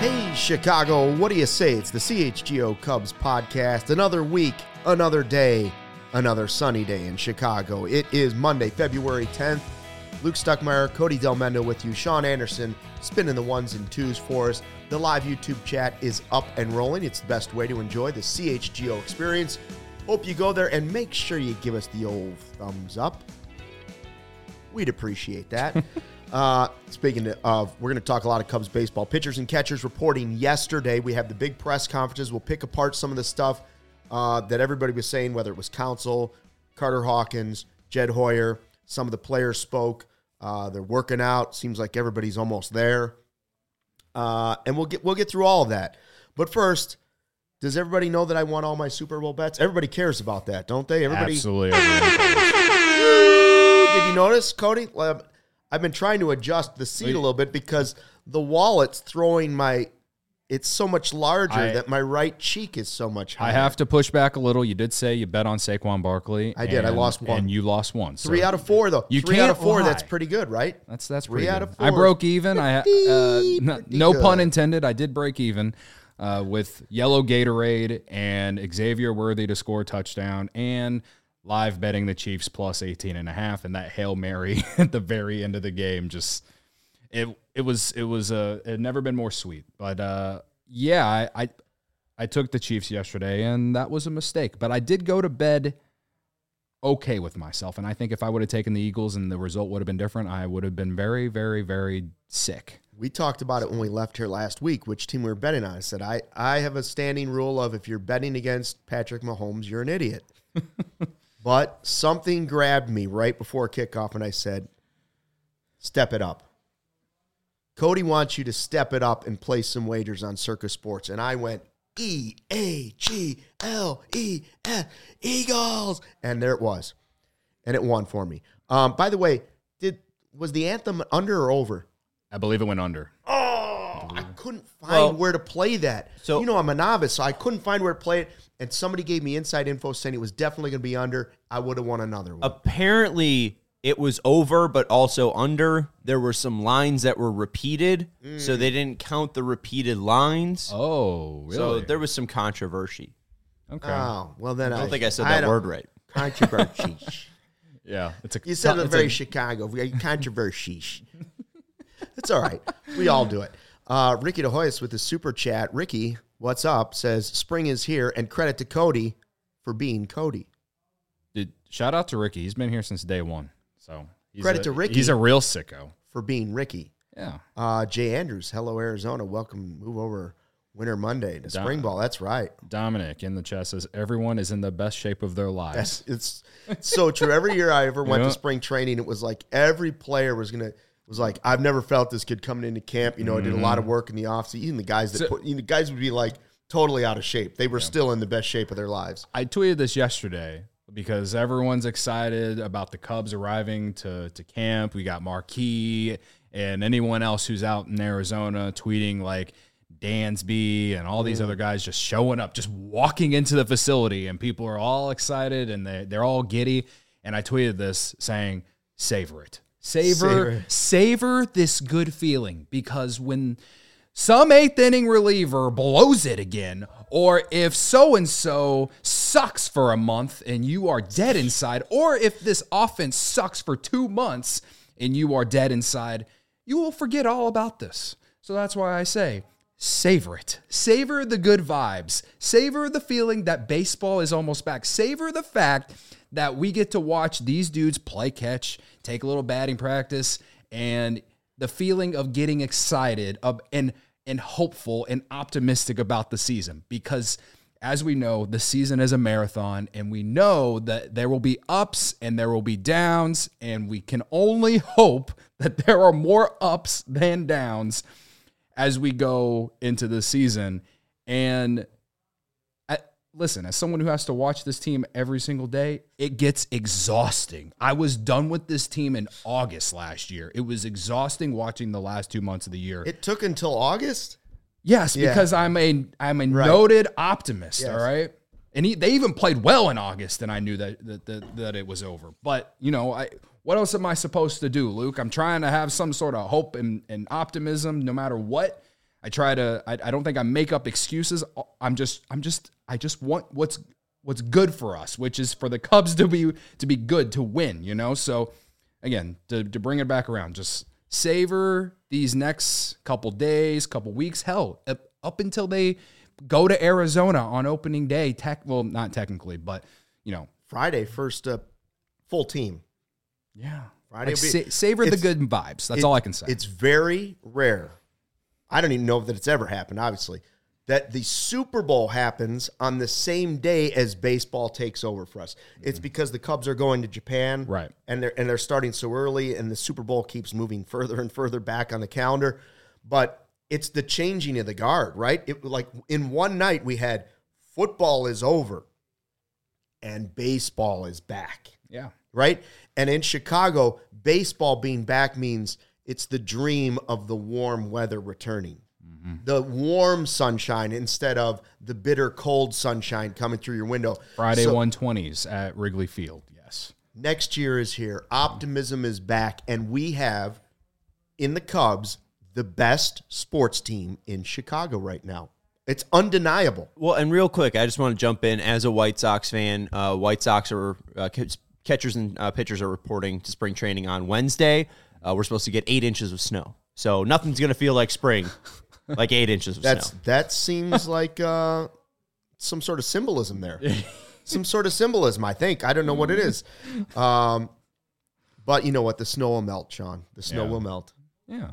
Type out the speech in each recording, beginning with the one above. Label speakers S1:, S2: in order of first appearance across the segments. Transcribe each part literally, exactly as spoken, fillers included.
S1: Hey, Chicago, what do you say? It's the C H G O Cubs podcast. Another week, another day, another sunny day in Chicago. It is Monday, February tenth. Luke Stuckmeyer, Cody Del Mendo with you. Sean Anderson spinning the ones and twos for us. The live YouTube chat is up and rolling. It's the best way to enjoy the C H G O experience. Hope you go there and make sure you give us the old thumbs up. We'd appreciate that. Uh, speaking of, we're going to talk a lot of Cubs baseball. Pitchers and catchers reporting yesterday. We have the big press conferences. We'll pick apart some of the stuff uh, that everybody was saying, whether it was Counsell, Carter Hawkins, Jed Hoyer. Some of the players spoke. Uh, they're working out. Seems like everybody's almost there. Uh, and we'll get we'll get through all of that. But first, does everybody know that I won all my Super Bowl bets? Everybody cares about that, don't they? Everybody.
S2: Absolutely.
S1: Did you notice, Cody? I've been trying to adjust the seat a little bit because the wallet's throwing my, it's so much larger I, that my right cheek is so much higher.
S2: I have to push back a little. You did say you bet on Saquon Barkley.
S1: I did.
S2: And,
S1: I lost one.
S2: And you lost one. So
S1: Three out of four, though.
S2: You
S1: Three
S2: can't
S1: out of four,
S2: lie.
S1: that's pretty good, right?
S2: That's that's
S1: Three
S2: pretty
S1: out
S2: good.
S1: of four.
S2: I broke even. I
S1: Pretty,
S2: uh, no, no
S1: good.
S2: pun intended. I did break even uh, with yellow Gatorade and Xavier Worthy to score a touchdown and live betting the Chiefs plus eighteen and a half, and that Hail Mary at the very end of the game just it it was it was uh it had never been more sweet. But uh yeah, I, I I took the Chiefs yesterday and that was a mistake. But I did go to bed okay with myself, and I think if I would have taken the Eagles and the result would have been different, I would have been very, very, very sick.
S1: We talked about it when we left here last week, which team we were betting on. I said, I, I have a standing rule of if you're betting against Patrick Mahomes, you're an idiot. But something grabbed me right before kickoff, and I said, step it up. Cody wants you to step it up and place some wagers on Circus Sports. And I went, E A G L E S, Eagles. And there it was. And it won for me. Um, by the way, did was the anthem under or over?
S2: I believe it went under.
S1: Oh, I couldn't find
S3: Well,
S1: where to play that.
S3: so-
S1: you know, I'm a novice, so I couldn't find where to play it. And somebody gave me inside info saying it was definitely going to be under. I would have won another one.
S3: Apparently, it was over, but also under. There were some lines that were repeated,
S1: Mm.
S3: so they didn't count the repeated lines.
S2: Oh, really?
S3: So there was some controversy.
S2: Okay.
S1: Oh, well then
S3: I
S1: I
S3: don't think I said that
S1: don't-
S3: word right.
S1: Controversy.
S2: Yeah. It's a,
S1: You said it
S2: it's
S1: very
S2: a-
S1: Chicago. Controversy. It's all right. We all do it. Uh, Ricky DeHoyas with the super chat. Ricky, what's up? Says spring is here, and credit to Cody for being Cody.
S2: Dude, shout out to Ricky. He's been here since day one. So he's
S1: Credit
S2: a,
S1: to Ricky.
S2: He's a real sicko.
S1: For being Ricky.
S2: Yeah.
S1: Uh, Jay Andrews, hello Arizona. Welcome. Move over Winter Monday to
S2: Dom-
S1: spring ball. That's right.
S2: Dominic in the chat says everyone is in the best shape of their lives.
S1: That's, it's so true. Every year I ever went
S2: Yeah.
S1: to spring training, it was like every player was gonna was like, I've never felt this kid coming into camp. You know, I did a lot of work in the offseason. Even the guys that
S2: So-
S1: put, you know, the guys would be like totally out of shape. They were still in the best shape of their lives.
S2: I tweeted this yesterday because everyone's excited about the Cubs arriving to, to camp. We got Marquee and anyone else who's out in Arizona tweeting like Dansby and all these other guys just showing up, just walking into the facility, and people are all excited and they, they're all giddy. And I tweeted this saying, savor it. Savor,
S1: Savor
S2: savor,
S1: it.
S2: this good feeling, because when some eighth inning reliever blows it again, or if so-and-so sucks for a month and you are dead inside, or if this offense sucks for two months and you are dead inside, you will forget all about this. So that's why I say, savor it. Savor the good vibes. Savor the feeling that baseball is almost back. Savor the fact that we get to watch these dudes play catch, take a little batting practice, and the feeling of getting excited of, and and hopeful and optimistic about the season. Because as we know, the season is a marathon, and we know that there will be ups and there will be downs, and we can only hope that there are more ups than downs as we go into the season. And I, listen, as someone who has to watch this team every single day, it gets exhausting. I was done with this team in August last year. It was exhausting watching the last two months of the year.
S1: It took until August?
S2: Yes,
S1: Yeah.
S2: because I'm a I'm a
S1: Right.
S2: noted optimist.
S1: Yes.
S2: All right, and he, they even played well in August, and I knew that that, that that it was over. But you know, I what else am I supposed to do, Luke? I'm trying to have some sort of hope and, and optimism, no matter what. I try to, I, I don't think I make up excuses. I'm just, I'm just, I just want what's, what's good for us, which is for the Cubs to be, to be good, to win, you know? So again, to, to bring it back around, just savor these next couple days, couple weeks, hell, up, up until they go to Arizona on opening day. Tech, well, not technically, but you know,
S1: Friday, first uh, full team.
S2: Yeah.
S1: Friday.
S2: Like,
S1: be,
S2: sa- savor the good vibes. That's
S1: it,
S2: all I can say.
S1: It's very rare. I don't even know that it's ever happened, obviously, that the Super Bowl happens on the same day as baseball takes over for us. It's because the Cubs are going to Japan,
S2: right?
S1: And they're and they're starting so early, and the Super Bowl keeps moving further and further back on the calendar. But it's the changing of the guard, right? It like in one night we had football is over, and baseball is back.
S2: Yeah,
S1: right. And in Chicago, baseball being back means it's the dream of the warm weather returning. The warm sunshine instead of the bitter cold sunshine coming through your window.
S2: Friday
S1: so,
S2: one twenties at Wrigley Field, yes.
S1: Next year is here. Optimism is back, and we have, in the Cubs, the best sports team in Chicago right now. It's undeniable.
S3: Well, and real quick, I just want to jump in. As a White Sox fan, uh, White Sox are uh, catchers and uh, pitchers are reporting to spring training on Wednesday. Uh, we're supposed to get eight inches of snow. So nothing's going to feel like spring. Like eight inches of
S1: That's,
S3: snow.
S1: That seems like uh, some sort of symbolism there. Some sort of symbolism, I think. I don't know what it is. Um, but you know what? The snow will melt, Sean. The snow
S2: yeah.
S1: will melt.
S2: Yeah.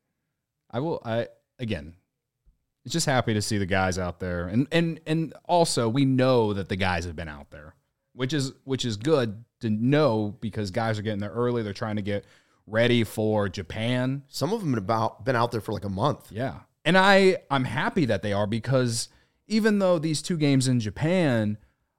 S2: I will, I, again, it's just happy to see the guys out there. And, and, and also, we know that the guys have been out there, which is, which is good to know because guys are getting there early. They're trying to get ready for Japan.
S1: Some of them have about been out there for like a month.
S2: Yeah. And I, I'm happy that they are because even though these two games in Japan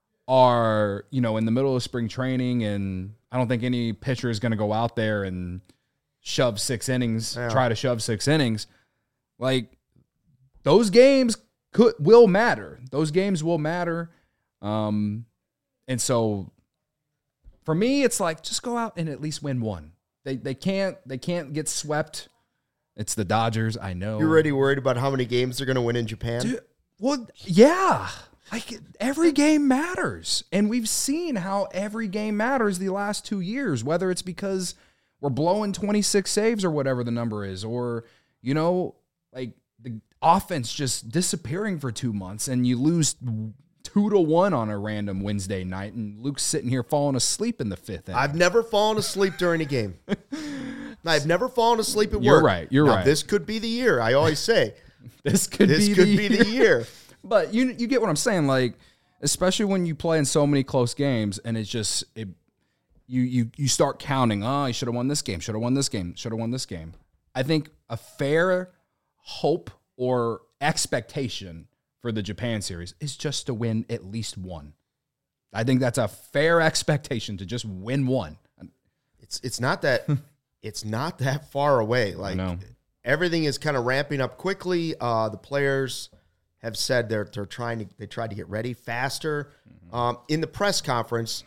S2: are, you know, in the middle of spring training and I don't think any pitcher is going to go out there and shove six innings,
S1: yeah.
S2: try to shove six innings, like those games could will matter. Those games will matter. Um, and so for me, it's like, just go out and at least win one. They they can't they can't get swept. It's the Dodgers, I know.
S1: You're already worried about how many games they're going to win in Japan?
S2: Dude, well, yeah. Like every game matters. And we've seen how every game matters the last two years, whether it's because we're blowing twenty-six saves or whatever the number is, or, you know, like the offense just disappearing for two months and you lose two to one on a random Wednesday night and Luke's sitting here falling asleep in the fifth inning.
S1: I've never fallen asleep during a game. I've never fallen asleep at work.
S2: You're right. You're
S1: now,
S2: right.
S1: This could be the year. I always say
S2: this could
S1: this
S2: be
S1: could
S2: the
S1: be
S2: year.
S1: the year.
S2: But you you get what I'm saying, like especially when you play in so many close games, and it's just it, you you you start counting. Oh, I should have won this game. Should have won this game. Should have won this game. I think a fair hope or expectation for the Japan series is just to win at least one. I think that's a fair expectation to just win one.
S1: It's it's not that it's not that far away. Like everything is kind of ramping up quickly. Uh, the players have said they're they're trying to they tried to get ready faster. Mm-hmm. Um, in the press conference,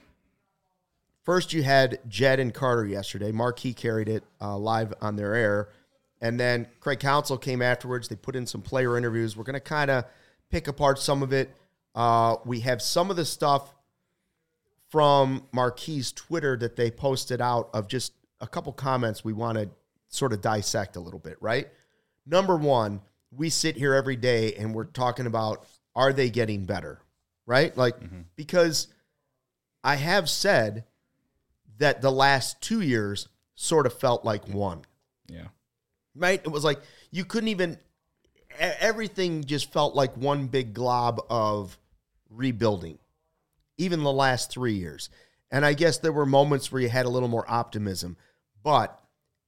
S1: first you had Jed and Carter yesterday. Marquee carried it uh, live on their air, and then Craig Counsell came afterwards. They put in some player interviews. We're going to kind of pick apart some of it. Uh, we have some of the stuff from Marquee's Twitter that they posted out of just a couple comments we want to sort of dissect a little bit, right? Number one, we sit here every day and we're talking about, are they getting better, right? Like, mm-hmm. because I have said that the last two years sort of felt like one.
S2: Yeah.
S1: Right? It was like you couldn't even, everything just felt like one big glob of rebuilding, even the last three years. And I guess there were moments where you had a little more optimism. But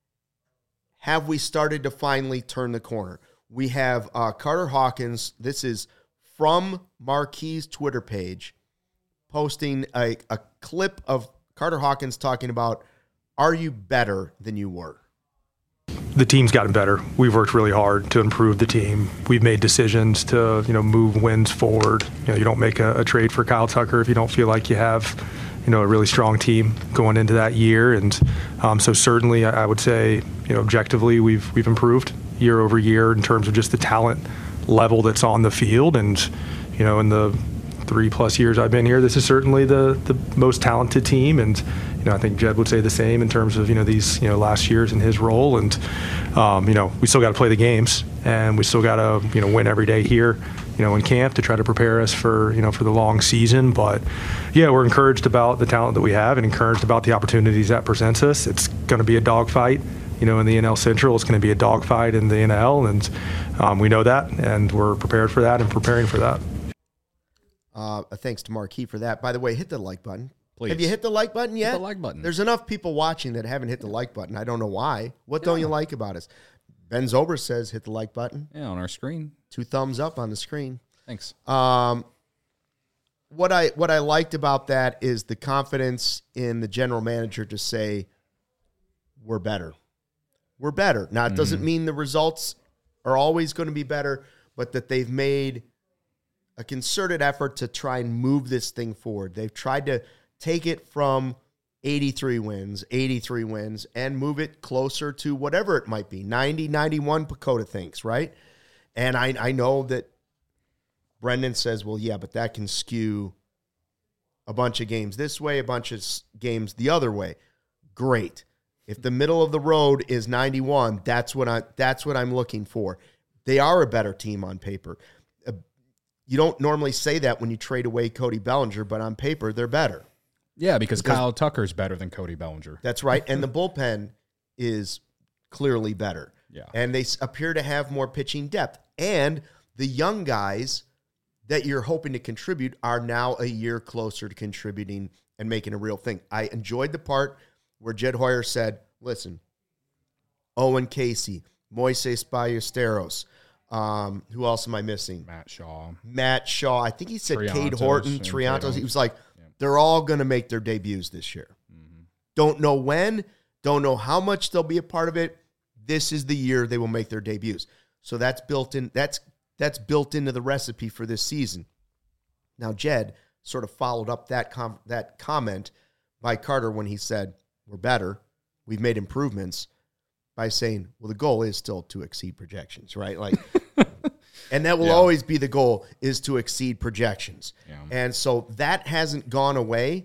S1: have we started to finally turn the corner? We have uh, Carter Hawkins. This is from Marquee's Twitter page, posting a, a clip of Carter Hawkins talking about, are you better than you were?
S4: The team's gotten better. We've worked really hard to improve the team. We've made decisions to, you know, move wins forward. You know, you don't make a, a trade for Kyle Tucker if you don't feel like you have, you know, a really strong team going into that year. And um, so certainly I would say, you know, objectively we've we've improved. year over year in terms of just the talent level that's on the field. And, you know, in the three plus years I've been here, this is certainly the, the most talented team. And, you know, I think Jed would say the same in terms of, you know, these, you know, last years in his role. And, um, you know, we still got to play the games, and we still got to, you know, win every day here, you know, in camp to try to prepare us for, you know, for the long season. But yeah, we're encouraged about the talent that we have and encouraged about the opportunities that presents us. It's going to be a dogfight, you know, in the N L Central. It's going to be a dogfight in the N L, and um, we know that, and we're prepared for that and preparing for that.
S1: Uh, thanks to Marquis for that. By the way, hit the like button.
S2: Please.
S1: Have you hit the like button yet?
S2: Hit the like button.
S1: There's enough people watching that haven't hit the like button. I don't know why. What don't you like about us? Ben Zober says hit the like button.
S2: Yeah, on our screen.
S1: Two thumbs up on the screen.
S2: Thanks.
S1: Um, what I what I liked about that is the confidence in the general manager to say, we're better. We're better. Now, it mm-hmm. doesn't mean the results are always going to be better, but that they've made a concerted effort to try and move this thing forward. They've tried to take it from eighty-three wins, eighty-three wins, and move it closer to whatever it might be, ninety, ninety-one, Pacoda thinks, right? And I, I know that Brendan says, well, yeah, but that can skew a bunch of games this way, a bunch of games the other way. Great. If the middle of the road is ninety-one, that's what I that's what I'm looking for. They are a better team on paper. Uh, you don't normally say that when you trade away Cody Bellinger, but on paper, they're better.
S2: Yeah, because, because Kyle Tucker's better than Cody Bellinger.
S1: That's right. And the bullpen is clearly better.
S2: Yeah.
S1: And they appear to have more pitching depth. And the young guys that you're hoping to contribute are now a year closer to contributing and making a real thing. I enjoyed the part where Jed Hoyer said, listen, Owen Casey, Moises Ballesteros, um, who else am I missing?
S2: Matt Shaw.
S1: Matt Shaw. I think he said
S2: Triantos
S1: Cade Horton, Triantos. He was like, yeah. They're all going to make their debuts this year. Mm-hmm. Don't know when, don't know how much they'll be a part of it. This is the year they will make their debuts. So that's built in. That's that's built into the recipe for this season. Now, Jed sort of followed up that com- that comment by Carter when he said, we're better, we've made improvements, by saying, well, the goal is still to exceed projections, right? Like, and that will yeah. always be the goal, is to exceed projections. Yeah. And so that hasn't gone away.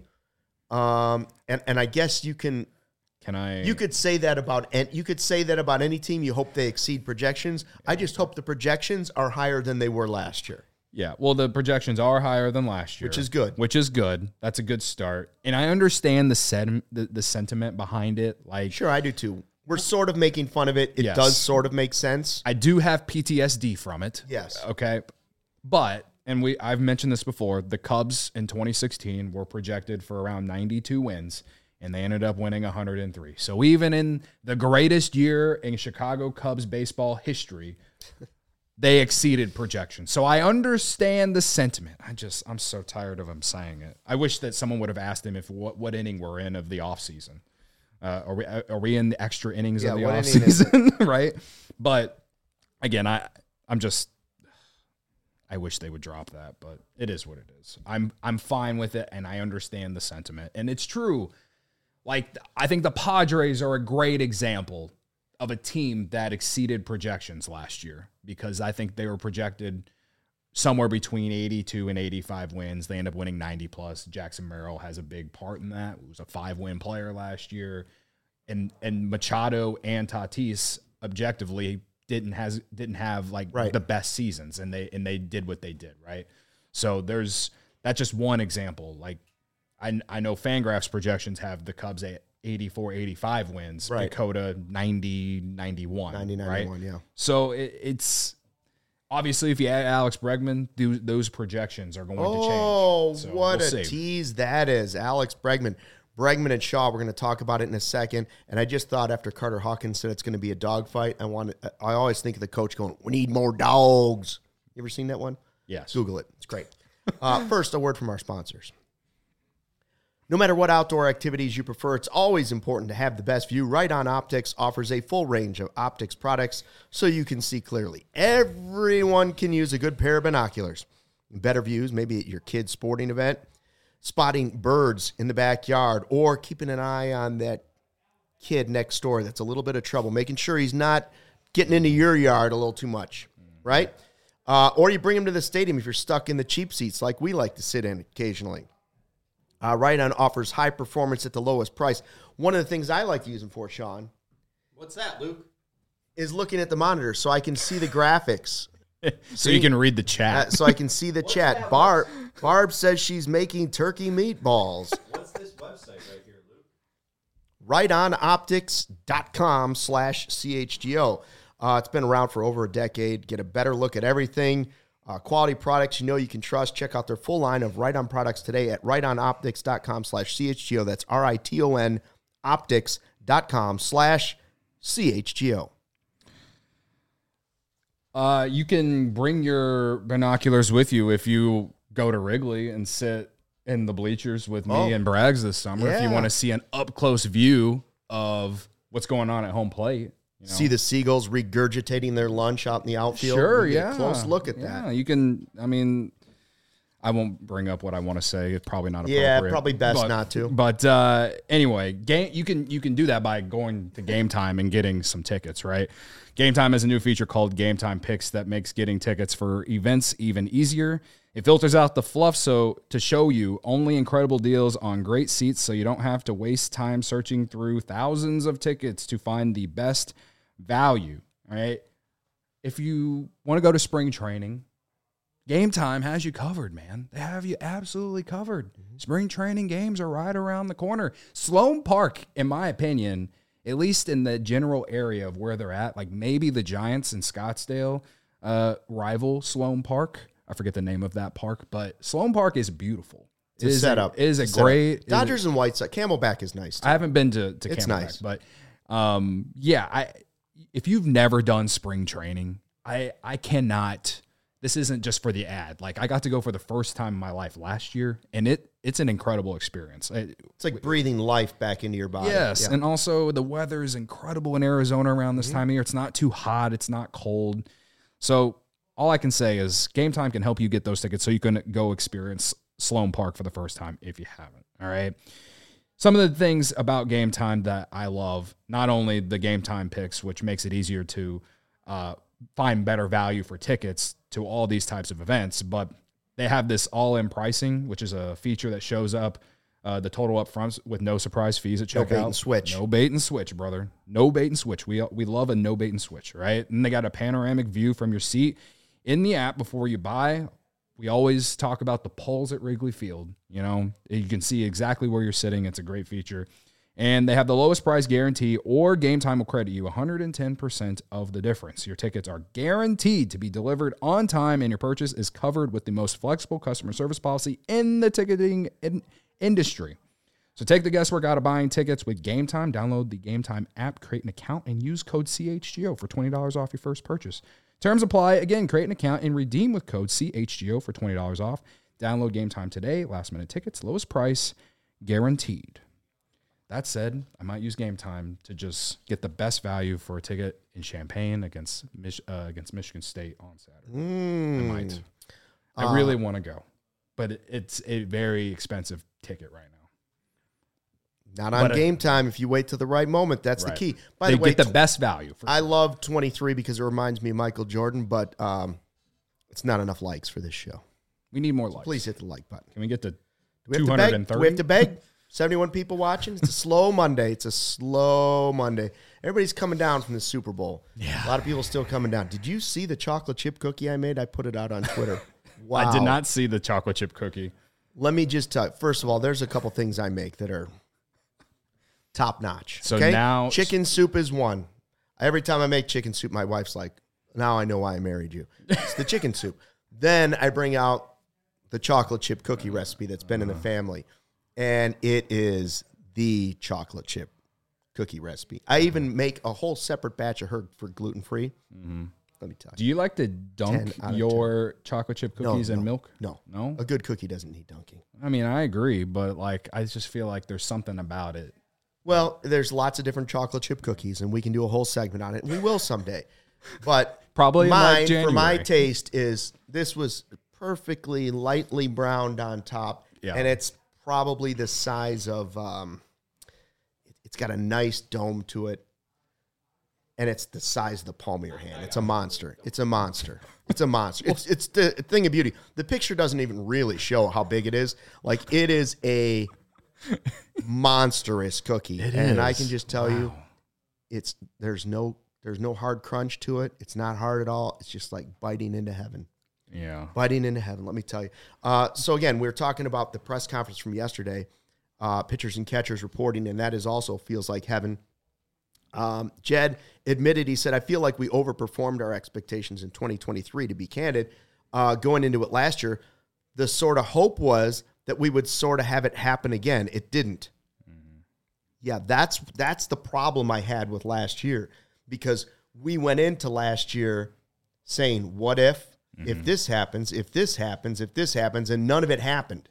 S1: Um, and, and I guess you can,
S2: can I,
S1: you could say that about, and you could say that about any team. You hope they exceed projections. Yeah. I just hope the projections are higher than they were last year.
S2: Yeah, well, the projections are higher than last year.
S1: Which is good.
S2: Which is good. That's a good start. And I understand the sen- the, the sentiment behind it. Like,
S1: sure, I do too. We're sort of making fun of it. It yes. does sort of make sense.
S2: I do have P T S D from it.
S1: Yes.
S2: Okay. But, and we I've mentioned this before, the Cubs in twenty sixteen were projected for around ninety-two wins, and they ended up winning one hundred three. So even in the greatest year in Chicago Cubs baseball history, they exceeded projections. So I understand the sentiment. I just, I'm so tired of him saying it. I wish that someone would have asked him if what, what inning we're in of the offseason. Uh, are we are we in the extra innings yeah, of the offseason, right? But again, I I'm just I wish they would drop that, but it is what it is. I'm I'm fine with it, and I understand the sentiment, and it's true. Like, I think the Padres are a great example of a team that exceeded projections last year, because I think they were projected somewhere between eighty-two and eighty-five wins. They end up winning ninety plus. Jackson Merrill has a big part in that. He was a five-win player last year. And and Machado and Tatis objectively didn't has didn't have like
S1: right.
S2: the best seasons, and they and they did what they did, right? So there's that's just one example. Like, I I know Fangraphs projections have the Cubs at eighty-four, eighty-five wins,
S1: right.
S2: Dakota ninety, ninety-one,
S1: ninety, ninety-one,
S2: right?
S1: yeah.
S2: So it, it's obviously, if you add Alex Bregman, those, those projections are going
S1: oh,
S2: to change.
S1: Oh,
S2: so
S1: what
S2: we'll
S1: a
S2: see.
S1: tease that is. Alex Bregman. Bregman and Shaw, we're going to talk about it in a second. And I just thought after Carter Hawkins said it's going to be a dogfight, I want to, I always think of the coach going, we need more dogs. You ever seen that one?
S2: Yes.
S1: Google it. It's great. Uh, first, a word from our sponsors. No matter what outdoor activities you prefer, it's always important to have the best view. Right On Optics offers a full range of optics products so you can see clearly. Everyone can use a good pair of binoculars. Better views, maybe at your kid's sporting event, spotting birds in the backyard, or keeping an eye on that kid next door that's a little bit of trouble, making sure he's not getting into your yard a little too much, right? Uh, or you bring them to the stadium if you're stuck in the cheap seats like we like to sit in occasionally. Uh, Right On offers high performance at the lowest price. One of the things I like to use them for, Sean,
S3: What's that, Luke?
S1: is looking at the monitor so I can see the graphics.
S2: So you can read the chat.
S1: Uh, so I can see the chat. Barb, Barb says she's making turkey meatballs.
S3: What's this website right here, Luke?
S1: right on optics dot com slash C H G O. Uh, it's been around for over a decade. Get a better look at everything. Uh, quality products you know you can trust. Check out their full line of Right On products today at right on optics dot com slash C H G O. That's R I T O N optics dot com slash C H G O.
S2: Uh, you can bring your binoculars with you if you go to Wrigley and sit in the bleachers with me
S1: Oh.
S2: and Braggs this summer. If you
S1: Yeah.
S2: want to see an up-close view of what's going on at home plate. You know?
S1: See the Seagulls regurgitating their lunch out in the outfield.
S2: Sure,
S1: We get
S2: yeah.
S1: a close look at
S2: Yeah,
S1: that.
S2: you can, I mean, I won't bring up what I want to say. It's probably not appropriate.
S1: Yeah, probably best
S2: but,
S1: not to.
S2: But uh, anyway, game you can you can do that by going to Game Time and getting some tickets, right? Game Time has a new feature called Game Time Picks that makes getting tickets for events even easier. It filters out the fluff so to show you only incredible deals on great seats so you don't have to waste time searching through thousands of tickets to find the best value, right? If you want to go to spring training, Game Time has you covered, man. They have you absolutely covered. Spring training games are right around the corner. Sloan Park, in my opinion, at least in the general area of where they're at, like maybe the Giants in Scottsdale uh, rival Sloan Park. I forget the name of that park, but Sloan Park is beautiful.
S1: It's a
S2: It is
S1: setup.
S2: A, it is a
S1: It's a setup.
S2: great it is a-
S1: Dodgers and White Sox. Camelback is nice, too.
S2: I haven't been to, to
S1: It's
S2: Camelback,
S1: nice.
S2: but um, yeah, I if you've never done spring training, I I cannot. This isn't just for the ad. Like I got to go for the first time in my life last year, and it it's an incredible experience. It,
S1: It's like breathing life back into your body.
S2: yes,
S1: Yeah.
S2: and also the weather is incredible in Arizona around this
S1: Mm-hmm.
S2: time of year. It's not too hot. It's not cold. So all I can say is Game Time can help you get those tickets so you can go experience Sloan Park for the first time if you haven't. All right. Some of the things about Game Time that I love, not only the Game Time picks, which makes it easier to uh, find better value for tickets to all these types of events, but they have this all-in pricing, which is a feature that shows up uh, the total up front with no surprise fees at
S1: No
S2: checkout.
S1: bait and switch.
S2: No bait and switch, brother. No bait and switch. We we love a no bait and switch, right? And they got a panoramic view from your seat in the app before you buy. We always talk about the polls at Wrigley Field. You know, you can see exactly where you're sitting. It's a great feature. And they have the lowest price guarantee, or Game Time will credit you one hundred ten percent of the difference. Your tickets are guaranteed to be delivered on time, and your purchase is covered with the most flexible customer service policy in the ticketing in- industry. So take the guesswork out of buying tickets with Game Time. Download the Game Time app, create an account, and use code C H G O for twenty dollars off your first purchase. Terms apply. Again, create an account and redeem with code C H G O for twenty dollars off. Download Game Time today. Last minute tickets, lowest price, guaranteed. That said, I might use Game Time to just get the best value for a ticket in Champaign against Mich- uh, against Michigan State on Saturday. I might. I really want to go, but it, it's a very expensive ticket right now.
S1: Not on
S2: But, uh,
S1: Game Time. If you wait till the right moment, that's
S2: Right.
S1: the key. By
S2: They
S1: the way,
S2: get the best value. For
S1: I love twenty-three because it reminds me of Michael Jordan, but um, it's not enough likes for this show.
S2: we need more likes.
S1: Please hit the like button.
S2: Can we get to
S1: Do we have
S2: two
S1: to
S2: hundred
S1: beg?
S2: and
S1: Do we have
S2: thirty?
S1: to beg? seventy-one people watching. It's a slow Monday. It's a slow Monday. Everybody's coming down from the Super Bowl. Yeah. A lot of people still coming down. Did you see the chocolate chip cookie I made? I put it out on Twitter. Wow.
S2: I did not see the chocolate chip cookie.
S1: Let me just tell you. First of all, there's a couple things I make that are top notch.
S2: So
S1: okay?
S2: now-
S1: chicken soup is one. Every time I make chicken soup, my wife's like, now I know why I married you. It's the chicken soup. Then I bring out the chocolate chip cookie recipe that's been in the family. And it is the chocolate chip cookie recipe. I even make a whole separate batch of her for gluten-free. Mm-hmm. Let me tell you.
S2: Do you like to dunk
S1: ten out of
S2: your chocolate chip cookies in
S1: no,
S2: milk?
S1: No.
S2: No?
S1: A good cookie doesn't need dunking.
S2: I mean, I agree, but like, I just feel like there's something about it.
S1: Well, there's lots of different chocolate chip cookies, and we can do a whole segment on it. And we will someday. But
S2: Probably in, like,
S1: mine, for my
S2: January.
S1: taste, is this was perfectly lightly browned on top.
S2: Yeah.
S1: And it's probably the size of, um, it- it's got a nice dome to it. and it's the size of the palm of your hand. It's a monster. It's a monster. It's a monster. It's it's the thing of beauty. The picture doesn't even really show how big it is. Like, it is a monstrous cookie.
S2: It
S1: and
S2: is.
S1: I can just tell
S2: Wow.
S1: you, it's there's no there's no hard crunch to it. It's not hard at all. It's just like biting into heaven.
S2: Yeah.
S1: Biting into heaven, let me tell you. Uh, so, again, we were talking about the press conference from yesterday, uh, pitchers and catchers reporting, and that is also feels like heaven. Um, Jed admitted, he said, I feel like we overperformed our expectations in twenty twenty-three, to be candid. Uh, going into it last year, the sort of hope was that we would sort of have it happen again. It didn't. Mm-hmm. Yeah, that's that's the problem I had with last year, because we went into last year saying, what if? Mm-hmm. If this happens, if this happens, if this happens, and none of it happened.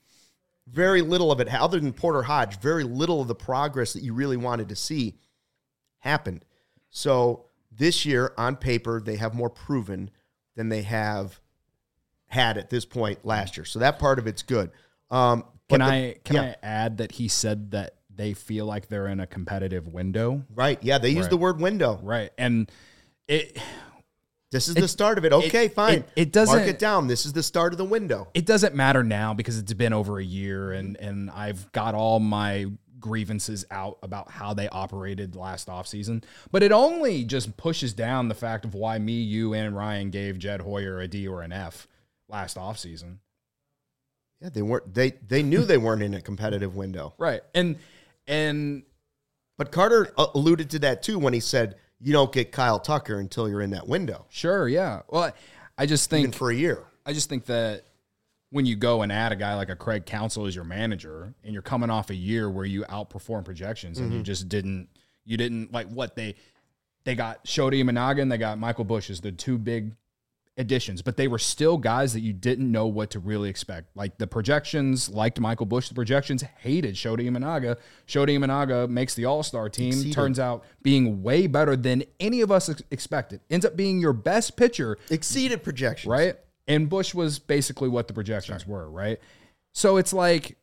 S1: Very little of it, other than Porter Hodge, very little of the progress that you really wanted to see happened. So this year, on paper, they have more proven than they have had at this point last year. So that part of it's good. Um,
S2: Can
S1: but the-
S2: I can
S1: yeah,
S2: I add that he said that they feel like they're in a competitive window?
S1: right? Yeah, they use
S2: Right.
S1: the word window.
S2: Right. And it
S1: This is the start of it. Okay,
S2: it-
S1: fine.
S2: it- it doesn't-
S1: mark it down. This is the start of the window.
S2: it doesn't matter now because it's been over a year and and I've got all my grievances out about how they operated last offseason. But it only just pushes down the fact of why me, you, and Ryan gave Jed Hoyer a D or an F last offseason.
S1: Yeah, they weren't. They they knew they weren't in a competitive window.
S2: Right. And and
S1: But Carter uh, alluded to that too when he said, you don't get Kyle Tucker until you're in that window,
S2: sure, yeah. Well, I just
S1: even
S2: think
S1: for a year.
S2: I just think that when you go and add a guy like a Craig Counsell as your manager, and you're coming off a year where you outperform projections, and you just didn't, you didn't like what they, they got Shota Imanaga and they got Michael Busch as the two big additions, but they were still guys that you didn't know what to really expect. Like the projections liked Michael Busch, the projections hated Shota Imanaga. Shota Imanaga makes the All-Star team,
S1: Exceeded.
S2: turns out being way better than any of us ex- expected. Ends up being your best pitcher,
S1: Exceeded projections.
S2: right? And Bush was basically what the projections were, right? So it's like,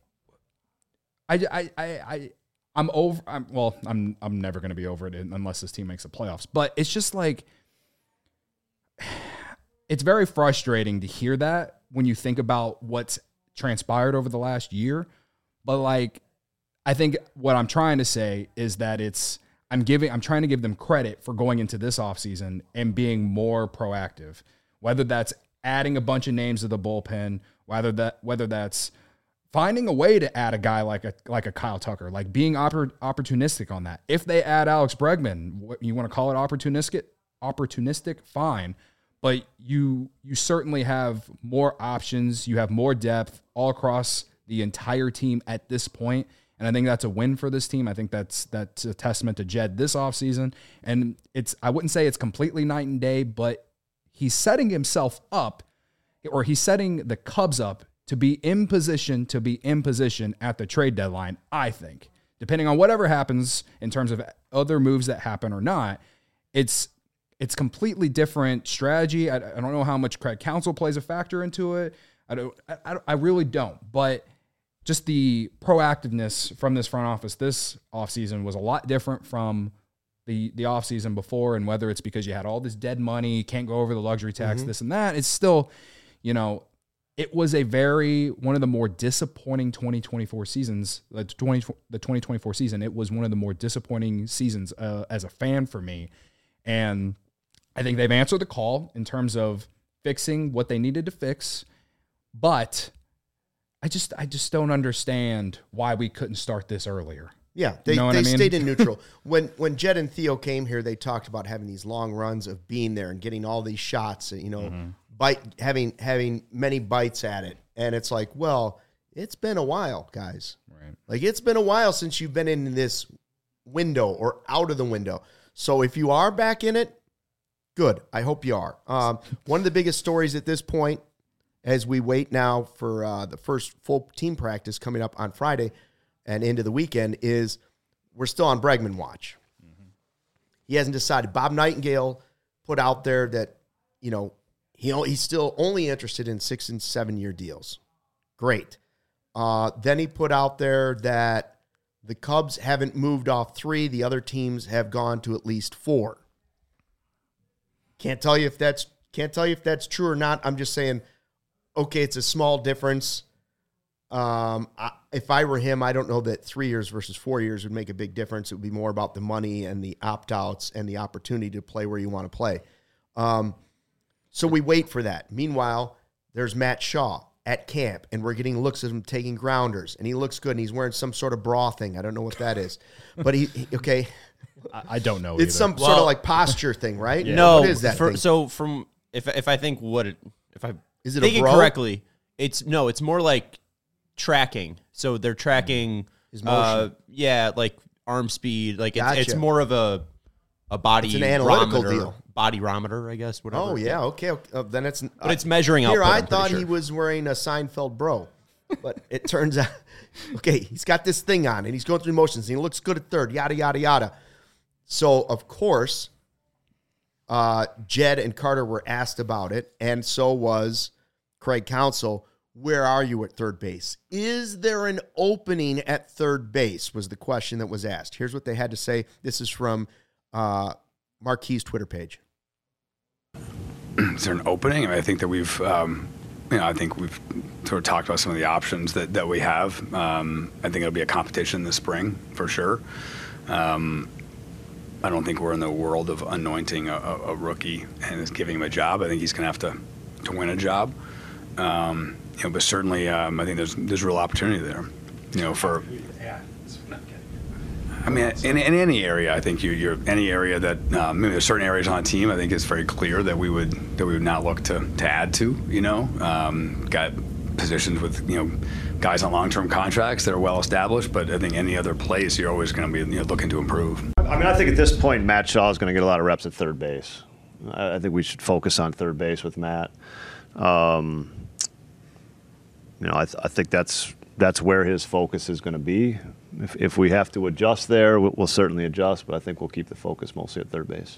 S2: I, I, I, I I'm over. I'm, well, I'm, I'm never going to be over it unless this team makes the playoffs. But it's just like, it's very frustrating to hear that when you think about what's transpired over the last year. But like, I think what I'm trying to say is that it's, I'm giving, I'm trying to give them credit for going into this offseason and being more proactive, whether that's adding a bunch of names to the bullpen, whether that, whether that's finding a way to add a guy like a, like a Kyle Tucker, like being oppor- opportunistic on that. If they add Alex Bregman, what you want to call it opportunistic, opportunistic, fine. But you you certainly have more options. You have more depth all across the entire team at this point. And I think that's a win for this team. I think that's that's a testament to Jed this offseason. And it's I wouldn't say it's completely night and day, but he's setting himself up, or he's setting the Cubs up to be in position to be in position at the trade deadline, I think. Depending on whatever happens in terms of other moves that happen or not, it's It's completely different strategy. I, I don't know how much Craig Counsell plays a factor into it. I don't. I, I really don't. But just the proactiveness from this front office this offseason was a lot different from the the offseason before. And whether it's because you had all this dead money, can't go over the luxury tax, mm-hmm. this and that, it's still, you know, it was a very one of the more disappointing twenty twenty-four seasons. The twenty the twenty twenty-four season, it was one of the more disappointing seasons uh, as a fan for me. And I think they've answered the call in terms of fixing what they needed to fix, but I just I just don't understand why we couldn't start this earlier.
S1: Yeah, they,
S2: You know what
S1: they
S2: I mean?
S1: stayed in neutral. when when Jed and Theo came here, they talked about having these long runs of being there and getting all these shots, you know, mm-hmm. bite having having many bites at it. And it's like, well, it's been a while, guys.
S2: Right.
S1: Like it's been a while since you've been in this window or out of the window. So if you are back in it, good. I hope you are. Um, one of the biggest stories at this point, as we wait now for uh, the first full team practice coming up on Friday and into the weekend, is we're still on Bregman watch. Mm-hmm. He hasn't decided. Bob Nightingale put out there that, you know, he he's still only interested in six and seven year deals. Great. Uh, then he put out there that the Cubs haven't moved off three. The other teams have gone to at least four. Can't tell you if that's can't tell you if that's true or not. I'm just saying, okay, it's a small difference. Um, I, if I were him, I don't know that three years versus four years would make a big difference. It would be more about the money and the opt-outs and the opportunity to play where you want to play. Um, so we wait for that. Meanwhile, there's Matt Shaw at camp, and we're getting looks at him taking grounders, and he looks good, and he's wearing some sort of bra thing. I don't know what that is. But, he, he okay.
S2: I, I don't know
S1: It's
S2: either.
S1: some
S3: Well,
S1: sort of like posture thing, right?
S3: Yeah. No,
S1: What is that
S3: for,
S1: thing?
S3: so from if if I think what it, if I
S1: Is it a
S3: think it
S1: bro?
S3: correctly, it's no, it's more like tracking. So they're tracking
S1: His motion.
S3: Uh, yeah, like arm speed. Like it's, it's
S1: Gotcha.
S3: more of a a body
S1: It's an analytical
S3: barometer-
S1: deal.
S3: Bodyrometer, I guess. Whatever.
S1: Oh, yeah, okay. okay. Uh, then it's...
S3: But it's measuring
S1: Here,
S3: output,
S1: I
S3: I'm pretty
S1: thought
S3: sure.
S1: he was wearing a Seinfeld bro, but it turns out, okay, he's got this thing on, and he's going through motions, and he looks good at third, yada, yada, yada. So, of course, uh, Jed and Carter were asked about it, and so was Craig Counsell. Where are you at third base? Is there an opening at third base, was the question that was asked. Here's what they had to say. This is from uh, Marquis' Twitter page.
S5: Is there an opening? I, mean, I think that we've, um, you know, I think we've sort of talked about some of the options that, that we have. Um, I think it'll be a competition this spring for sure. Um, I don't think we're in the world of anointing a, a, a rookie and giving him a job. I think he's going to have to to win a job. Um, you know, but certainly, um, I think there's there's real opportunity there. You know, for. I mean, in, in any area, I think you, you're any area that um, maybe there's certain areas on a team. I think it's very clear that we would that we would not look to, to add to. You know, um, got positions with you know guys on long-term contracts that are well established. But I think any other place, you're always going to be you know, looking to improve.
S6: I mean, I think at this point, Matt Shaw is going to get a lot of reps at third base. I, I think we should focus on third base with Matt. Um, you know, I, th- I think that's that's where his focus is going to be. If, if we have to adjust there, we'll, we'll certainly adjust, but I think we'll keep the focus mostly at third base.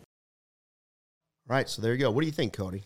S1: Right, so there you go. What do you think, Cody?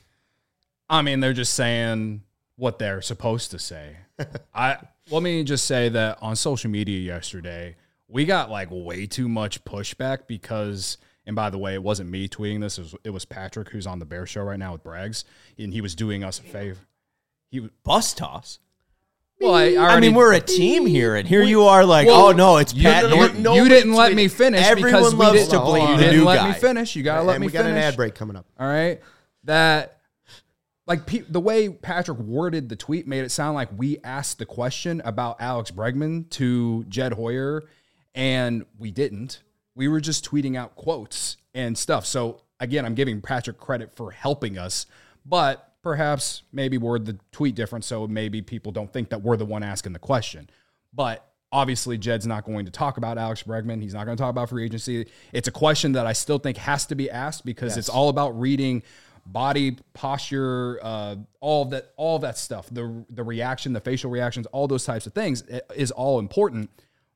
S2: I mean, they're just saying what they're supposed to say. I let me just say that on social media yesterday, we got like way too much pushback because, and by the way, it wasn't me tweeting this. It was, it was Patrick, who's on the Bear Show right now with Braggs, and he was doing us a favor. He was,
S3: Bus toss.
S2: well, I, I,
S3: I
S2: already,
S3: mean, we're a team here, and here you are like,
S2: Well,
S3: oh, no, it's
S2: you,
S3: Pat.
S2: you,
S3: Norton.
S2: you
S1: nobody
S2: didn't let me
S1: tweeted.
S2: finish
S3: Everyone
S2: because we
S3: loves
S2: didn't,
S3: to blame
S2: you
S3: the
S2: didn't
S3: new
S2: let
S3: guy.
S2: me finish. You got to let
S1: and
S2: me
S1: we got
S2: finish.
S1: an ad break coming up.
S2: All right. That, like, pe- the way Patrick worded the tweet made it sound like we asked the question about Alex Bregman to Jed Hoyer, and we didn't. We were just tweeting out quotes and stuff. So, again, I'm giving Patrick credit for helping us, but perhaps maybe word the tweet different so maybe people don't think that we're the one asking the question. But obviously, Jed's not going to talk about Alex Bregman. He's not going to talk about free agency. It's a question that I still think has to be asked because
S1: Yes.
S2: it's all about reading body posture, uh, all of that, all of that stuff. The the reaction, the facial reactions, all those types of things is all important.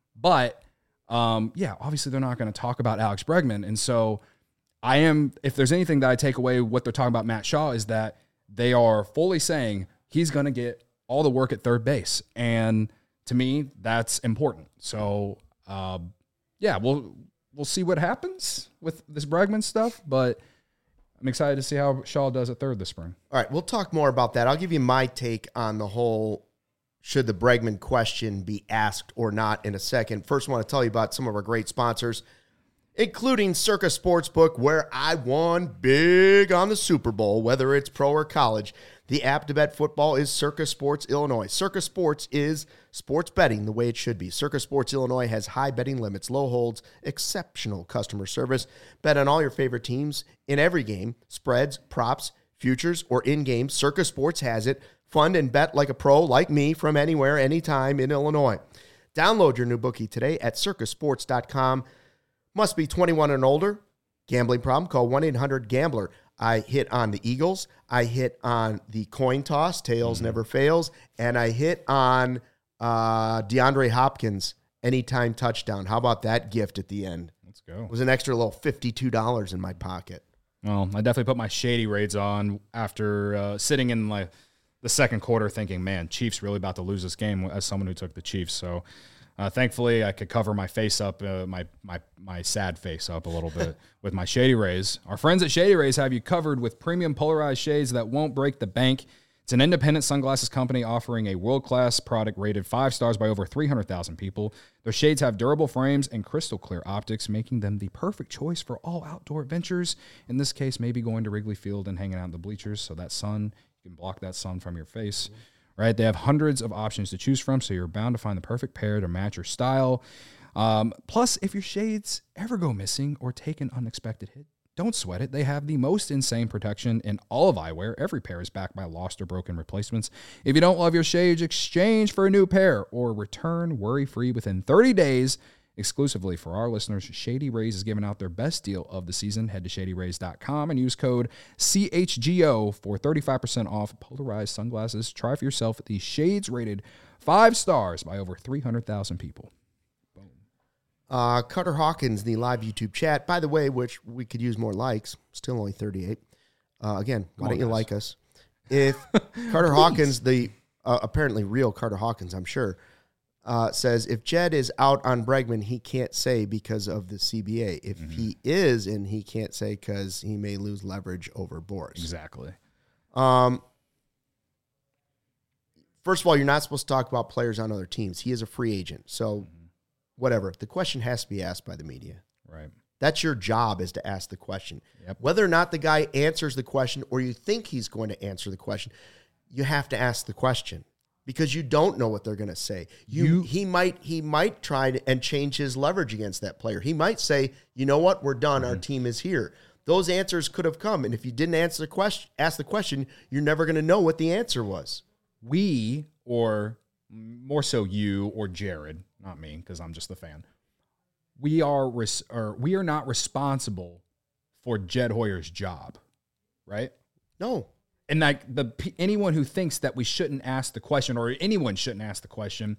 S2: But um, yeah, obviously they're not going to talk about Alex Bregman, and so I am. If there's anything that I take away, what they're talking about Matt Shaw is that they are fully saying he's going to get all the work at third base, and to me, that's important. So, uh, yeah, we'll we'll see what happens with this Bregman stuff, but I'm excited to see how Shaw does at third this spring.
S1: All right, we'll talk more about that. I'll give you my take on the whole should the Bregman question be asked or not in a second. First, I want to tell you about some of our great sponsors, including Circa Sportsbook, where I won big on the Super Bowl, whether it's pro or college. The app to bet football is Circa Sports Illinois. Circa Sports is sports betting the way it should be. Circa Sports Illinois has high betting limits, low holds, exceptional customer service. Bet on all your favorite teams in every game, spreads, props, futures, or in-game. Circa Sports has it. Fund and bet like a pro like me from anywhere, anytime in Illinois. Download your new bookie today at circa sports dot com. Must be twenty-one and older. Gambling problem? Call one eight hundred gambler. I hit on the Eagles. I hit on the coin toss. Tails mm-hmm. never fails. And I hit on uh, DeAndre Hopkins anytime touchdown. How about that gift at the end?
S2: Let's go.
S1: It was an extra little fifty-two dollars in my pocket.
S2: Well, I definitely put my shady raids on after uh, sitting in like the second quarter thinking, man, Chiefs really about to lose this game as someone who took the Chiefs. So Uh, thankfully, I could cover my face up, uh, my my my sad face up a little bit with my Shady Rays. Our friends at Shady Rays have you covered with premium polarized shades that won't break the bank. It's an independent sunglasses company offering a world-class product rated five stars by over three hundred thousand people. Their shades have durable frames and crystal clear optics, making them the perfect choice for all outdoor adventures. In this case, maybe going to Wrigley Field and hanging out in the bleachers so that sun, you can block that sun from your face. Mm-hmm. Right? They have hundreds of options to choose from, so you're bound to find the perfect pair to match your style. Um, plus, if your shades ever go missing or take an unexpected hit, don't sweat it. They have the most insane protection in all of eyewear. Every pair is backed by lost or broken replacements. If you don't love your shades, exchange for a new pair or return worry-free within thirty days. Exclusively for our listeners, Shady Rays is giving out their best deal of the season. Head to shady rays dot com and use code C H G O for thirty-five percent off polarized sunglasses. Try for yourself these shades rated five stars by over three hundred thousand people. Boom.
S1: Uh, Carter Hawkins, the live YouTube chat, by the way, which we could use more likes, still only thirty-eight. Uh, again, why don't you guys like us? If Carter Hawkins, the uh, apparently real Carter Hawkins, I'm sure, Uh, says if Jed is out on Bregman, he can't say because of the C B A. If mm-hmm. he is in, he can't say because he may lose leverage over Boris.
S2: Exactly.
S1: Um. First of all, you're not supposed to talk about players on other teams. He is a free agent, so mm-hmm. whatever. The question has to be asked by the media.
S2: Right.
S1: That's your job, is to ask the question.
S2: Yep.
S1: Whether or not the guy answers the question or you think he's going to answer the question, you have to ask the question. Because you don't know what they're going to say. You, you he might he might try to, and change his leverage against that player. He might say, you know what, we're done. Mm-hmm. Our team is here. Those answers could have come, and if you didn't answer the question, ask the question, you're never going to know what the answer was.
S2: We, or more so you or Jared, not me, because I'm just the fan. We are res- or we are not responsible for Jed Hoyer's job, right?
S1: No.
S2: And like the anyone who thinks that we shouldn't ask the question, or anyone shouldn't ask the question,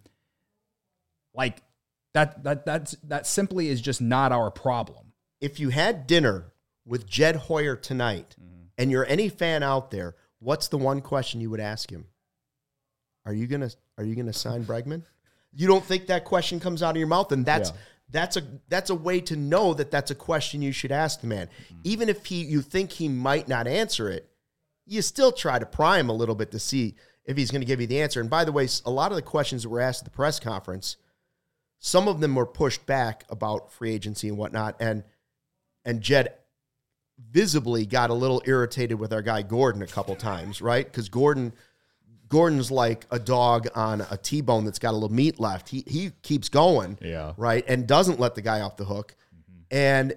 S2: like that that that's that simply is just not our problem.
S1: If you had dinner with Jed Hoyer tonight, mm-hmm. and you're any fan out there, what's the one question you would ask him? Are you gonna Are you gonna sign Bregman? You don't think that question comes out of your mouth, and that's. Yeah. That's a that's a way to know that that's a question you should ask the man. Mm-hmm. Even if he you think he might not answer it, you still try to pry him a little bit to see if he's going to give you the answer. And by the way, a lot of the questions that were asked at the press conference, some of them were pushed back about free agency and whatnot. And and Jed visibly got a little irritated with our guy Gordon a couple times, right? Because Gordon Gordon's like a dog on a T-bone that's got a little meat left. He he keeps going,
S2: yeah,
S1: right, and doesn't let the guy off the hook. Mm-hmm. And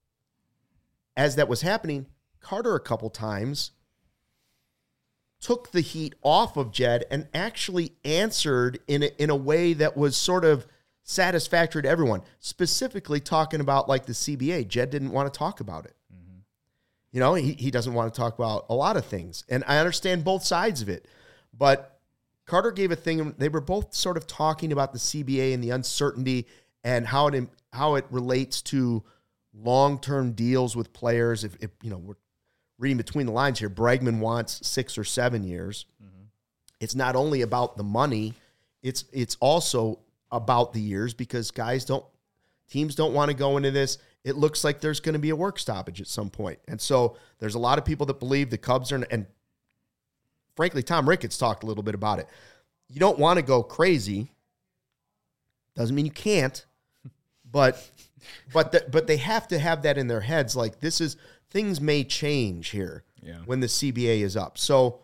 S1: as that was happening, Carter a couple times took the heat off of Jed and actually answered in a, in a way that was sort of satisfactory to everyone, specifically talking about like the C B A. Jed didn't want to talk about it. Mm-hmm. You know, he, he doesn't want to talk about a lot of things. And I understand both sides of it. But Carter gave a thing. They were both sort of talking about the C B A and the uncertainty and how it how it relates to long-term deals with players. If, if you know, we're reading between the lines here, Bregman wants six or seven years. Mm-hmm. It's not only about the money, it's it's also about the years, because guys don't, teams don't want to go into this. It looks like there's going to be a work stoppage at some point. And so there's a lot of people that believe the Cubs are, and frankly, Tom Ricketts talked a little bit about it. You don't want to go crazy. Doesn't mean you can't, but but the, but they have to have that in their heads. Like, this is, things may change here
S2: yeah.
S1: when the C B A is up. So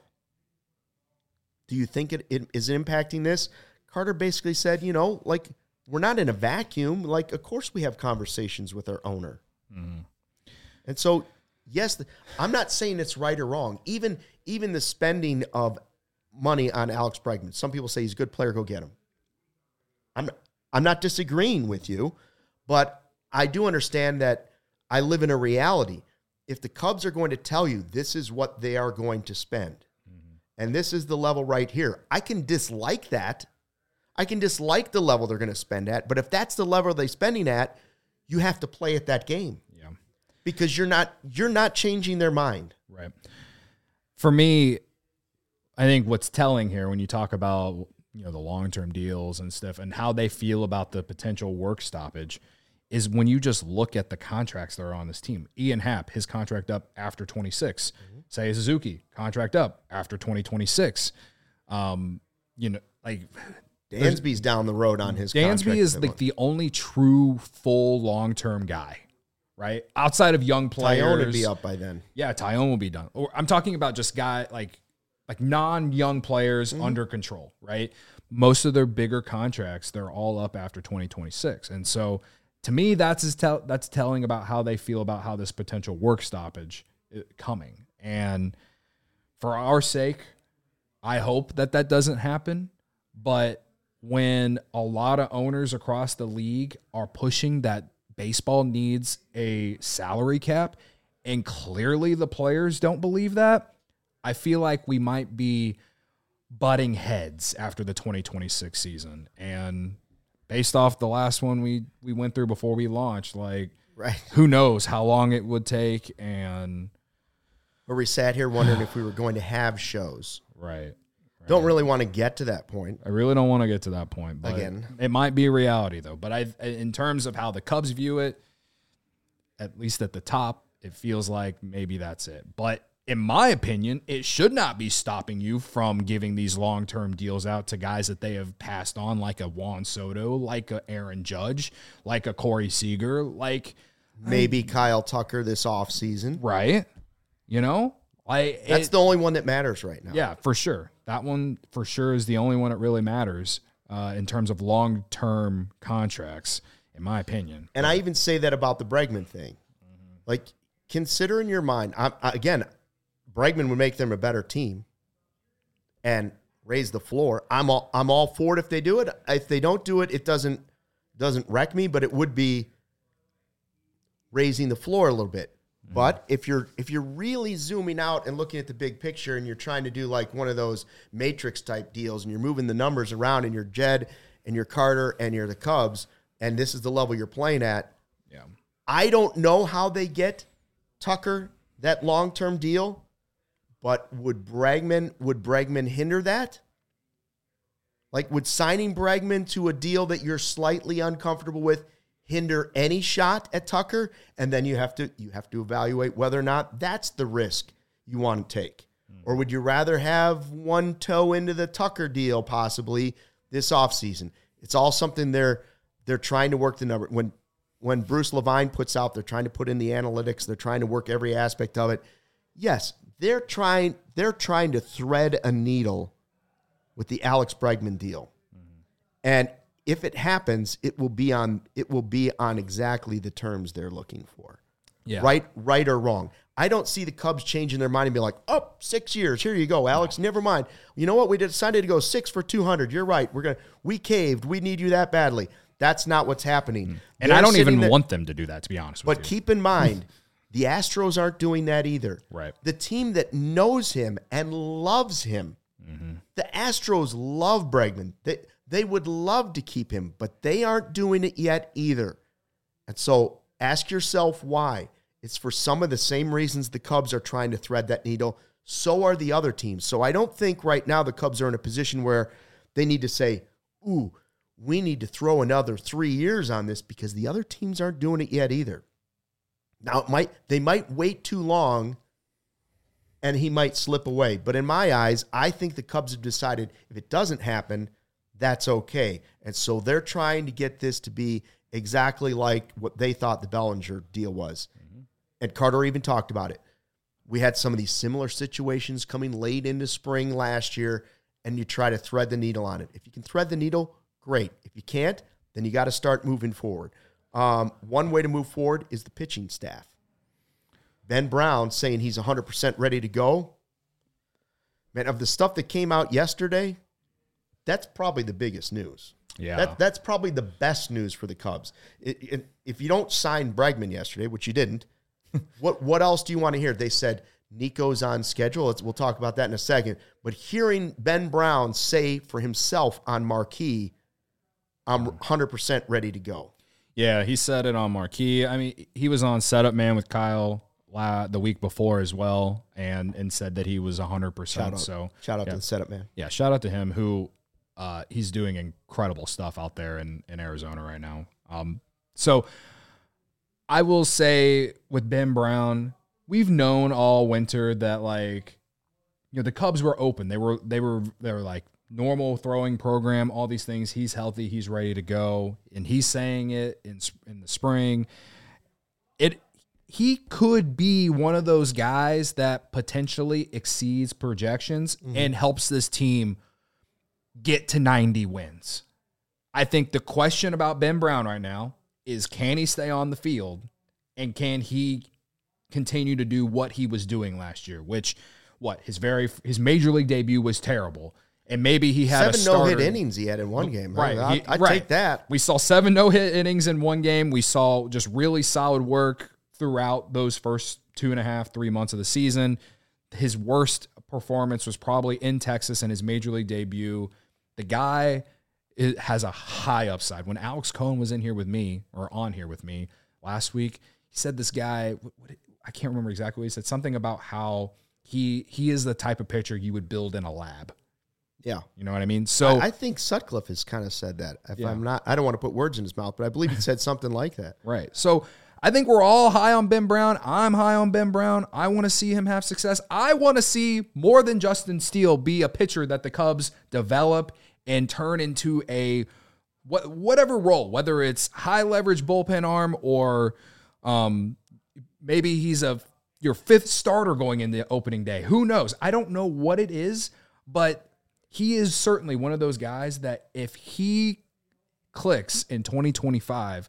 S1: do you think it, it is impacting this? Carter basically said, you know, like, we're not in a vacuum. Like, of course we have conversations with our owner. Mm-hmm. And so, yes, the, I'm not saying it's right or wrong. Even even the spending of money on Alex Bregman. Some people say he's a good player, go get him. I'm I'm not disagreeing with you, but I do understand that I live in a reality. If the Cubs are going to tell you this is what they are going to spend, mm-hmm. and this is the level right here, I can dislike that. I can dislike the level they're going to spend at, but if that's the level they're spending at, you have to play at that game.
S2: Yeah.
S1: Because you're not you're not changing their mind.
S2: Right. For me, I think what's telling here when you talk about you know, the long-term deals and stuff and how they feel about the potential work stoppage is when you just look at the contracts that are on this team. Ian Happ, his contract up after twenty-six. Mm-hmm. Seiya Suzuki, contract up after twenty twenty-six. Um, you know, like
S1: Dansby's down the road on his
S2: Dansby
S1: contract.
S2: is like the only true full long-term guy, right? Outside of young players.
S1: Tyone would be up by then.
S2: Yeah, Tyone will be done. Or I'm talking about just guy like like non-young players mm-hmm. under control, right? Most of their bigger contracts, they're all up after twenty twenty-six. And so to me, that's is tell, that's telling about how they feel about how this potential work stoppage is coming. And for our sake, I hope that that doesn't happen. But when a lot of owners across the league are pushing that baseball needs a salary cap, and clearly the players don't believe that, I feel like we might be butting heads after the twenty twenty-six season. And based off the last one we, we went through before we launched, like,
S1: right.
S2: who knows how long it would take. And
S1: where we sat here wondering if we were going to have shows.
S2: Right. right.
S1: Don't really want to get to that point.
S2: I really don't want to get to that point. But
S1: Again.
S2: It might be a reality, though. But I, in terms of how the Cubs view it, at least at the top, it feels like maybe that's it. But in my opinion, it should not be stopping you from giving these long-term deals out to guys that they have passed on, like a Juan Soto, like a Aaron Judge, like a Corey Seager, like
S1: maybe
S2: I,
S1: Kyle Tucker this offseason.
S2: Right. You know? I,
S1: That's
S2: it,
S1: the only one that matters right now.
S2: Yeah, for sure. That one for sure is the only one that really matters uh, in terms of long-term contracts, in my opinion.
S1: And I even say that about the Bregman thing. Mm-hmm. Like, consider in your mind, I, I, again, Bregman would make them a better team and raise the floor. I'm all I'm all for it if they do it. If they don't do it, it doesn't doesn't wreck me, but it would be raising the floor a little bit. Mm-hmm. But if you're if you're really zooming out and looking at the big picture and you're trying to do like one of those matrix type deals and you're moving the numbers around and you're Jed and you're Carter and you're the Cubs and this is the level you're playing at.
S2: Yeah.
S1: I don't know how they get Tucker that long-term deal. But would Bregman would Bregman hinder that? Like, would signing Bregman to a deal that you're slightly uncomfortable with hinder any shot at Tucker? And then you have to you have to evaluate whether or not that's the risk you want to take. Mm-hmm. Or would you rather have one toe into the Tucker deal possibly this offseason? It's all something they're they're trying to work the number. When when Bruce Levine puts out, they're trying to put in the analytics, they're trying to work every aspect of it. Yes, they're trying they're trying to thread a needle with the Alex Bregman deal. Mm-hmm. And if it happens, it will be on it will be on exactly the terms they're looking for.
S2: Yeah.
S1: Right, right or wrong. I don't see the Cubs changing their mind and be like, oh, six years. Here you go, Alex. No. Never mind. You know what? We decided to go six for two hundred. You're right. We're gonna we caved. We need you that badly. That's not what's happening. Mm.
S2: And they're I don't even there, want them to do that, to be honest with
S1: but
S2: you. But
S1: keep in mind, the Astros aren't doing that either.
S2: Right.
S1: The team that knows him and loves him, mm-hmm. the Astros love Bregman. They, they would love to keep him, but they aren't doing it yet either. And so ask yourself why. It's for some of the same reasons the Cubs are trying to thread that needle. So are the other teams. So I don't think right now the Cubs are in a position where they need to say, ooh, we need to throw another three years on this because the other teams aren't doing it yet either. Now, it might they might wait too long and he might slip away. But in my eyes, I think the Cubs have decided if it doesn't happen, that's okay. And so they're trying to get this to be exactly like what they thought the Bellinger deal was. Mm-hmm. And Carter even talked about it. We had some of these similar situations coming late into spring last year, and you try to thread the needle on it. If you can thread the needle, great. If you can't, then you got to start moving forward. Um, one way to move forward is the pitching staff. Ben Brown saying he's one hundred percent ready to go. Man, of the stuff that came out yesterday, that's probably the biggest news.
S2: Yeah.
S1: That, that's probably the best news for the Cubs. It, it, if you don't sign Bregman yesterday, which you didn't, what what else do you want to hear? They said Nico's on schedule. Let's, we'll talk about that in a second. But hearing Ben Brown say for himself on Marquee, I'm one hundred percent ready to go.
S2: Yeah, he said it on Marquee. I mean, he was on Setup Man with Kyle la- the week before as well, and and said that he was one hundred percent.
S1: Shout out,
S2: so
S1: shout out
S2: yeah.
S1: to the Setup Man.
S2: Yeah, shout out to him, who uh, he's doing incredible stuff out there in, in Arizona right now. Um, so I will say with Ben Brown, we've known all winter that, like, you know, the Cubs were open. They were, they were, they were like normal throwing program, all these things. He's healthy. He's ready to go. And he's saying it in, in the spring. It, he could be one of those guys that potentially exceeds projections mm-hmm. and helps this team get to ninety wins. I think the question about Ben Brown right now is, can he stay on the field and can he continue to do what he was doing last year, which what his very his major league debut was terrible. And maybe he had
S1: seven no-hit innings he had in one game.
S2: Right.
S1: I,
S2: he,
S1: I'd
S2: right.
S1: take that.
S2: We saw seven no-hit innings in one game. We saw just really solid work throughout those first two and a half, three months of the season. His worst performance was probably in Texas in his major league debut. The guy is, has a high upside. When Alex Cohen was in here with me, or on here with me last week, he said this guy, what, what, I can't remember exactly what he said, something about how he he is the type of pitcher you would build in a lab.
S1: Yeah.
S2: You know what I mean? So
S1: I, I think Sutcliffe has kind of said that. If
S2: Yeah.
S1: I'm not, I don't want to put words in his mouth, but I believe he said something like that.
S2: Right. So I think we're all high on Ben Brown. I'm high on Ben Brown. I want to see him have success. I want to see more than Justin Steele be a pitcher that the Cubs develop and turn into a what whatever role, whether it's high leverage bullpen arm or um, maybe he's a your fifth starter going into opening day. Who knows? I don't know what it is, but he is certainly one of those guys that if he clicks in twenty twenty-five,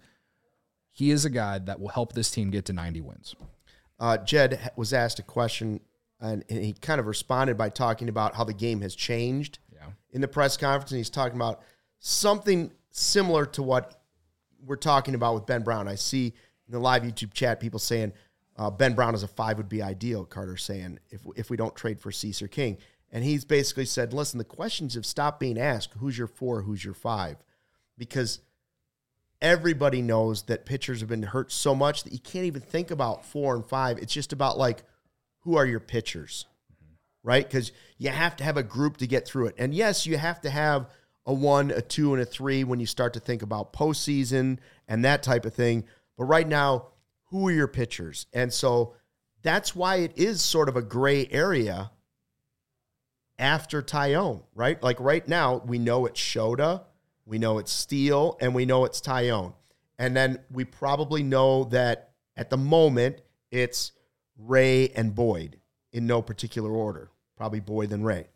S2: he is a guy that will help this team get to ninety wins.
S1: Uh, Jed was asked a question, and, and he kind of responded by talking about how the game has changed
S2: Yeah.
S1: in the press conference, and he's talking about something similar to what we're talking about with Ben Brown. I see in the live YouTube chat people saying uh, Ben Brown as a five would be ideal, Carter's saying, if, if we don't trade for Cesar King. And he's basically said, listen, the questions have stopped being asked, who's your four, who's your five? Because everybody knows that pitchers have been hurt so much that you can't even think about four and five. It's just about, like, who are your pitchers, mm-hmm. right? Because you have to have a group to get through it. And, yes, you have to have a one, a two, and a three when you start to think about postseason and that type of thing. But right now, who are your pitchers? And so that's why it is sort of a gray area after Tyone, right? Like right now, we know it's Shota, we know it's Steele, and we know it's Tyone. And then we probably know that at the moment, it's Ray and Boyd in no particular order. Probably Boyd and Ray.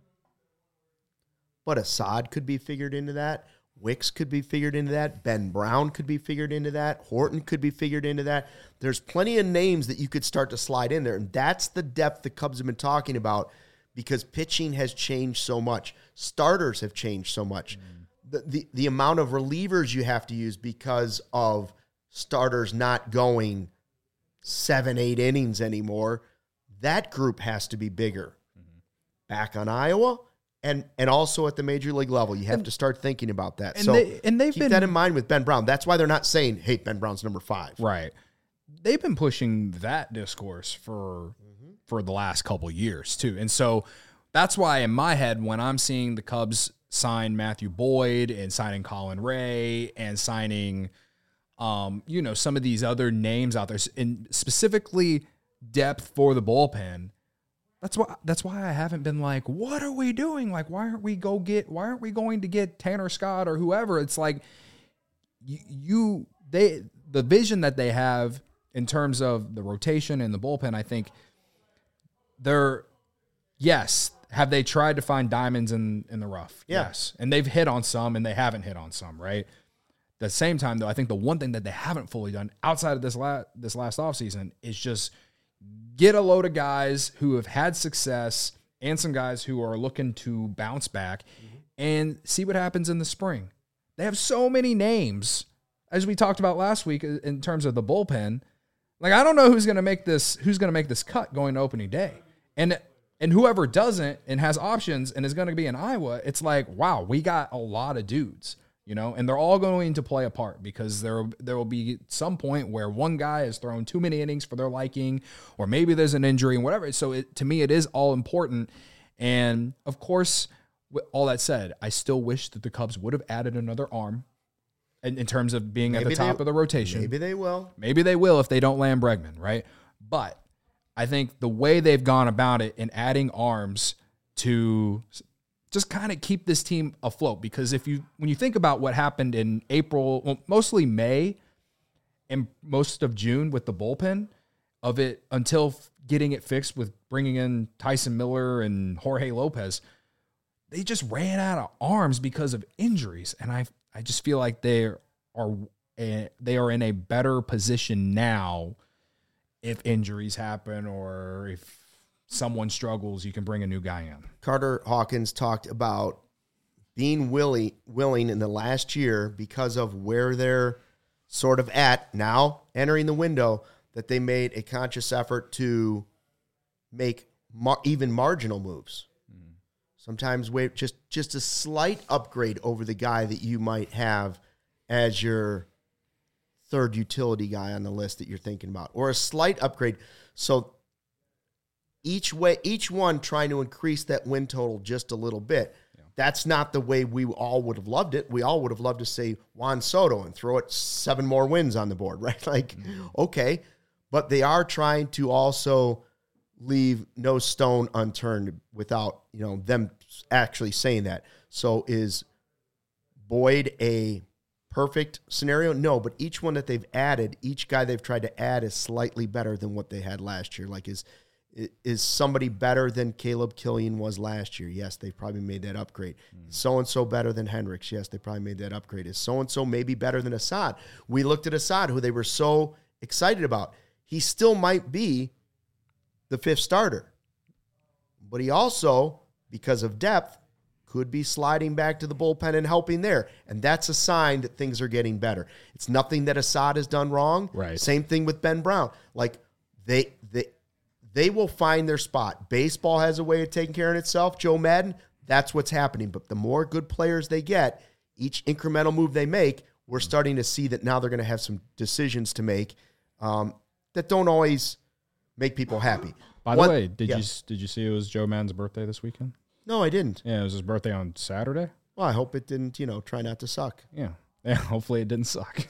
S1: But Assad could be figured into that. Wicks could be figured into that. Ben Brown could be figured into that. Horton could be figured into that. There's plenty of names that you could start to slide in there. And that's the depth the Cubs have been talking about, because pitching has changed so much. Starters have changed so much. Mm. The, the the amount of relievers you have to use because of starters not going seven, eight innings anymore, that group has to be bigger. Mm-hmm. Back on Iowa and and also at the major league level, you have
S2: and,
S1: to start thinking about that.
S2: And
S1: so
S2: they, and they've
S1: keep
S2: been,
S1: that in mind with Ben Brown. That's why they're not saying, hey, Ben Brown's number five.
S2: Right. They've been pushing that discourse for mm-hmm. for the last couple years too. And so that's why in my head, when I'm seeing the Cubs sign Matthew Boyd and signing Colin Ray and signing, um, you know, some of these other names out there, and specifically depth for the bullpen, that's why that's why I haven't been like, what are we doing? Like, why aren't we go get? Why aren't we going to get Tanner Scott or whoever? It's like you, you they the vision that they have in terms of the rotation and the bullpen. I think they're yes. Have they tried to find diamonds in, in the rough?
S1: Yeah.
S2: Yes. And they've hit on some and they haven't hit on some, right? At the same time, though, I think the one thing that they haven't fully done outside of this, la- this last offseason is just get a load of guys who have had success and some guys who are looking to bounce back mm-hmm. and see what happens in the spring. They have so many names, as we talked about last week in terms of the bullpen. Like, I don't know who's going to make this, who's going to make this cut going to opening day. And And whoever doesn't and has options and is going to be in Iowa, it's like, wow, we got a lot of dudes, you know, and they're all going to play a part because there, there will be some point where one guy has thrown too many innings for their liking, or maybe there's an injury and whatever. So it, to me, it is all important. And of course, with all that said, I still wish that the Cubs would have added another arm in, in terms of being maybe at the top
S1: they,
S2: of the rotation.
S1: Maybe they will.
S2: Maybe they will if they don't land Bregman, right? But I think the way they've gone about it in adding arms to just kind of keep this team afloat, because if you when you think about what happened in April, well, mostly May and most of June with the bullpen of it until getting it fixed with bringing in Tyson Miller and Jorge Lopez, they just ran out of arms because of injuries, and I I just feel like they are a, they are in a better position now. If injuries happen or if someone struggles, you can bring a new guy in.
S1: Carter Hawkins talked about being willing, willing in the last year because of where they're sort of at now, entering the window, that they made a conscious effort to make mar- even marginal moves. Mm. Sometimes wait, just, just a slight upgrade over the guy that you might have as your third utility guy on the list that you're thinking about, or a slight upgrade. So each way, each one trying to increase that win total just a little bit. Yeah. That's not the way we all would have loved it. We all would have loved to say Juan Soto and throw it seven more wins on the board, right? Like, mm-hmm. okay, but they are trying to also leave no stone unturned without, you know, them actually saying that. So is Boyd a perfect scenario? No, but each one that they've added, each guy they've tried to add is slightly better than what they had last year. Like, is is somebody better than Caleb Killian was last year? Yes, they've probably made that upgrade. Mm. So-and-so better than Hendricks? Yes, they probably made that upgrade. Is so-and-so maybe better than Assad? We looked at Assad, who they were so excited about. He still might be the fifth starter, but he also, because of depth, could be sliding back to the bullpen and helping there. And that's a sign that things are getting better. It's nothing that Assad has done wrong.
S2: Right.
S1: Same thing with Ben Brown. Like, they they they will find their spot. Baseball has a way of taking care of itself. Joe Madden, that's what's happening. But the more good players they get, each incremental move they make, we're starting to see that now they're going to have some decisions to make um, that don't always make people happy.
S2: By the One, way, did yeah. you did you see it was Joe Madden's birthday this weekend?
S1: No, I didn't.
S2: Yeah, it was his birthday on Saturday.
S1: Well, I hope it didn't, you know, try not to suck.
S2: Yeah. Yeah, hopefully it didn't suck.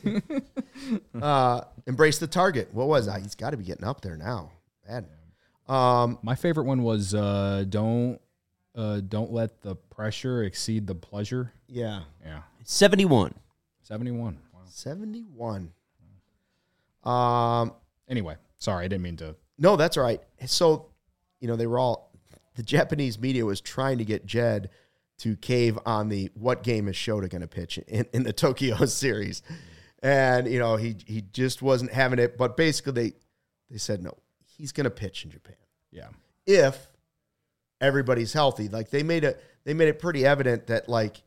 S1: uh, embrace the target. What was that? He's got to be getting up there now. Bad. Um,
S2: My favorite one was uh, don't uh, don't let the pressure exceed the pleasure.
S1: Yeah.
S2: Yeah.
S3: seventy-one.
S2: seventy-one. Wow.
S1: seventy-one. Um.
S2: Anyway, sorry, I didn't mean to.
S1: No, that's all right. So, you know, they were all, the Japanese media was trying to get Jed to cave on the what game is Shota going to pitch in, in the Tokyo series. And, you know, he he just wasn't having it. But basically, they, they said, no, he's going to pitch in Japan.
S2: Yeah.
S1: If everybody's healthy. Like, they made it, they made it pretty evident that, like,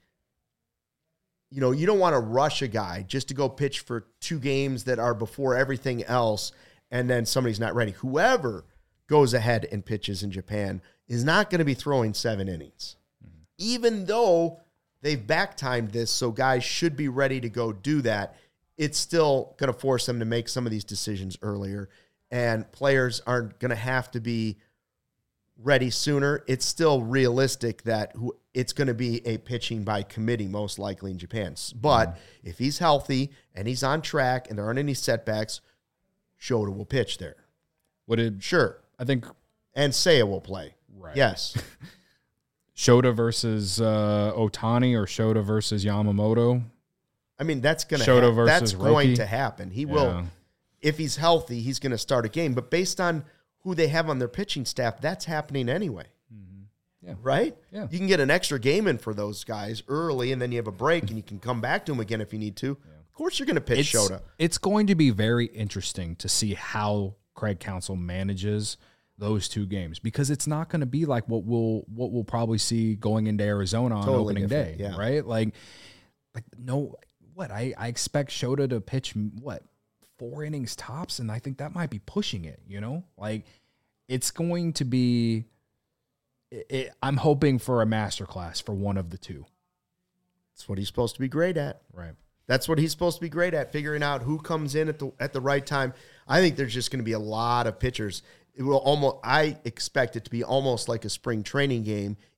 S1: you know, you don't want to rush a guy just to go pitch for two games that are before everything else, and then somebody's not ready. Whoever goes ahead and pitches in Japan is not going to be throwing seven innings. Mm-hmm. Even though they've back-timed this, so guys should be ready to go do that, it's still going to force them to make some of these decisions earlier, and players aren't going to have to be ready sooner. It's still realistic that who, it's going to be a pitching by committee, most likely in Japan. But mm-hmm. if he's healthy and he's on track and there aren't any setbacks, Shota will pitch there.
S2: What did
S1: sure?
S2: I think,
S1: and Seiya will play.
S2: Right.
S1: Yes.
S2: Shota versus uh, Ohtani or Shota versus Yamamoto.
S1: I mean, that's going to
S2: Shota
S1: ha-
S2: versus
S1: that's
S2: Roki.
S1: going to happen. He
S2: yeah.
S1: will, if he's healthy, he's going to start a game. But based on who they have on their pitching staff, that's happening anyway.
S2: Mm-hmm. Yeah.
S1: Right?
S2: Yeah.
S1: You can get an extra game in for those guys early, and then you have a break, and you can come back to them again if you need to. Yeah. Of course you're going to pitch
S2: it's,
S1: Shota.
S2: It's going to be very interesting to see how Craig Counsell manages those two games, because it's not going to be like what we'll what we'll probably see going into Arizona on
S1: totally
S2: opening day,
S1: yeah.
S2: right? Like, like no, what I, I expect Shota to pitch what four innings tops, and I think that might be pushing it. You know, like it's going to be. It, it, I'm hoping for a masterclass for one of the two.
S1: That's what he's supposed to be great at,
S2: right?
S1: That's what he's supposed to be great at, figuring out who comes in at the at the right time. I think there's just going to be a lot of pitchers. It will almost. I expect it to be almost like a spring training game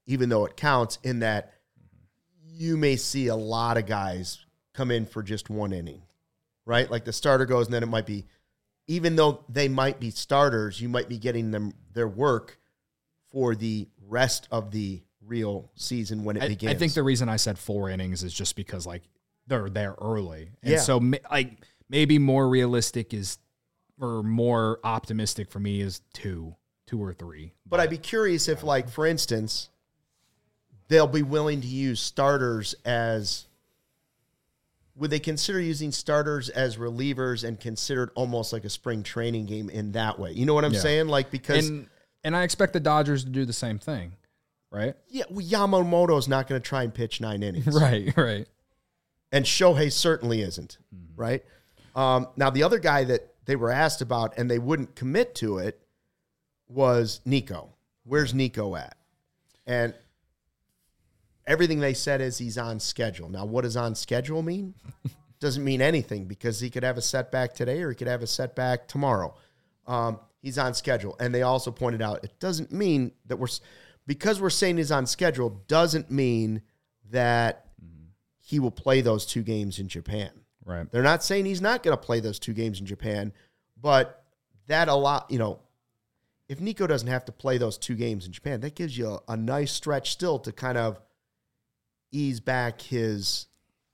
S1: even though it counts, in that you may see a lot of guys come in for just one inning, right? Like the starter goes, and then it might be, even though they might be starters, you might be getting them their work for the rest of the real season when it
S2: I,
S1: begins.
S2: I think the reason I said four innings is just because like they're there early. And
S1: Yeah.
S2: so like maybe more realistic is, or more optimistic for me is two, two or three.
S1: But I'd be curious if, like, for instance, they'll be willing to use starters as, would they consider using starters as relievers and considered almost like a spring training game in that way? You know what I'm
S2: Yeah.
S1: saying? Like, because,
S2: And and I expect the Dodgers to do the same thing, right?
S1: yeah, well, Yamamoto's not going to try and pitch nine innings.
S2: Right, right.
S1: And Shohei certainly isn't,
S2: Mm-hmm.
S1: right? Um, now, the other guy that they were asked about and they wouldn't commit to it was Nico. Where's Nico at? And everything they said is he's on schedule. Now, what does on schedule mean? Doesn't mean anything, because he could have a setback today or he could have a setback tomorrow. Um, he's on schedule. And they also pointed out it doesn't mean that we're, because we're saying he's on schedule, doesn't mean that he will play those two games in Japan.
S2: Right.
S1: They're not saying he's not going to play those two games in Japan, but that a lot, you know, if Nico doesn't have to play those two games in Japan, that gives you a, a nice stretch still to kind of ease back his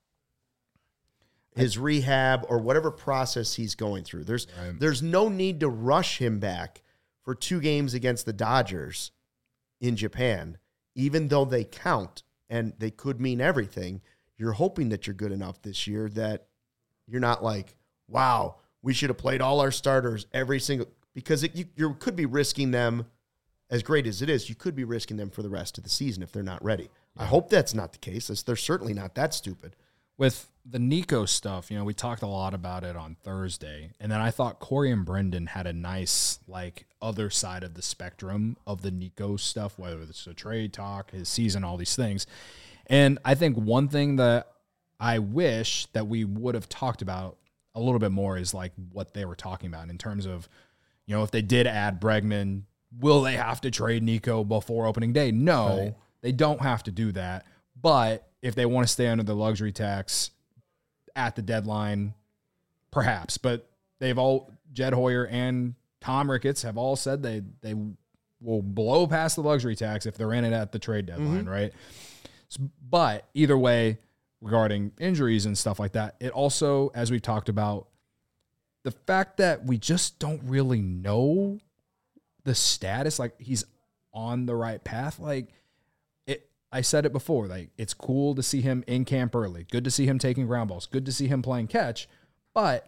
S1: his rehab or whatever process he's going through. There's
S2: Right.
S1: there's no need to rush him back for two games against the Dodgers in Japan, even though they count and they could mean everything. You're hoping that you're good enough this year that you're not like, wow, we should have played all our starters every single, because it, you, you could be risking them, as great as it is, you could be risking them for the rest of the season if they're not ready. I hope that's not the case. They're certainly not that stupid.
S2: With the Nico stuff, you know, we talked a lot about it on Thursday, and then I thought Corey and Brendan had a nice, like, other side of the spectrum of the Nico stuff, whether it's a trade talk, his season, all these things. And I think one thing that I wish that we would have talked about a little bit more is, like, what they were talking about in terms of, you know, if they did add Bregman, will they have to trade Nico before opening day? No,
S1: Right.
S2: They don't have to do that. But if they want to stay under the luxury tax at the deadline, perhaps. But they've all, Jed Hoyer and Tom Ricketts have all said they they will blow past the luxury tax if they're in it at the trade deadline, right? So, but either way, regarding injuries and stuff like that, it also, as we've talked about, the fact that we just don't really know the status, like he's on the right path, like it. I said it before, like it's cool to see him in camp early. Good to see him taking ground balls. Good to see him playing catch. But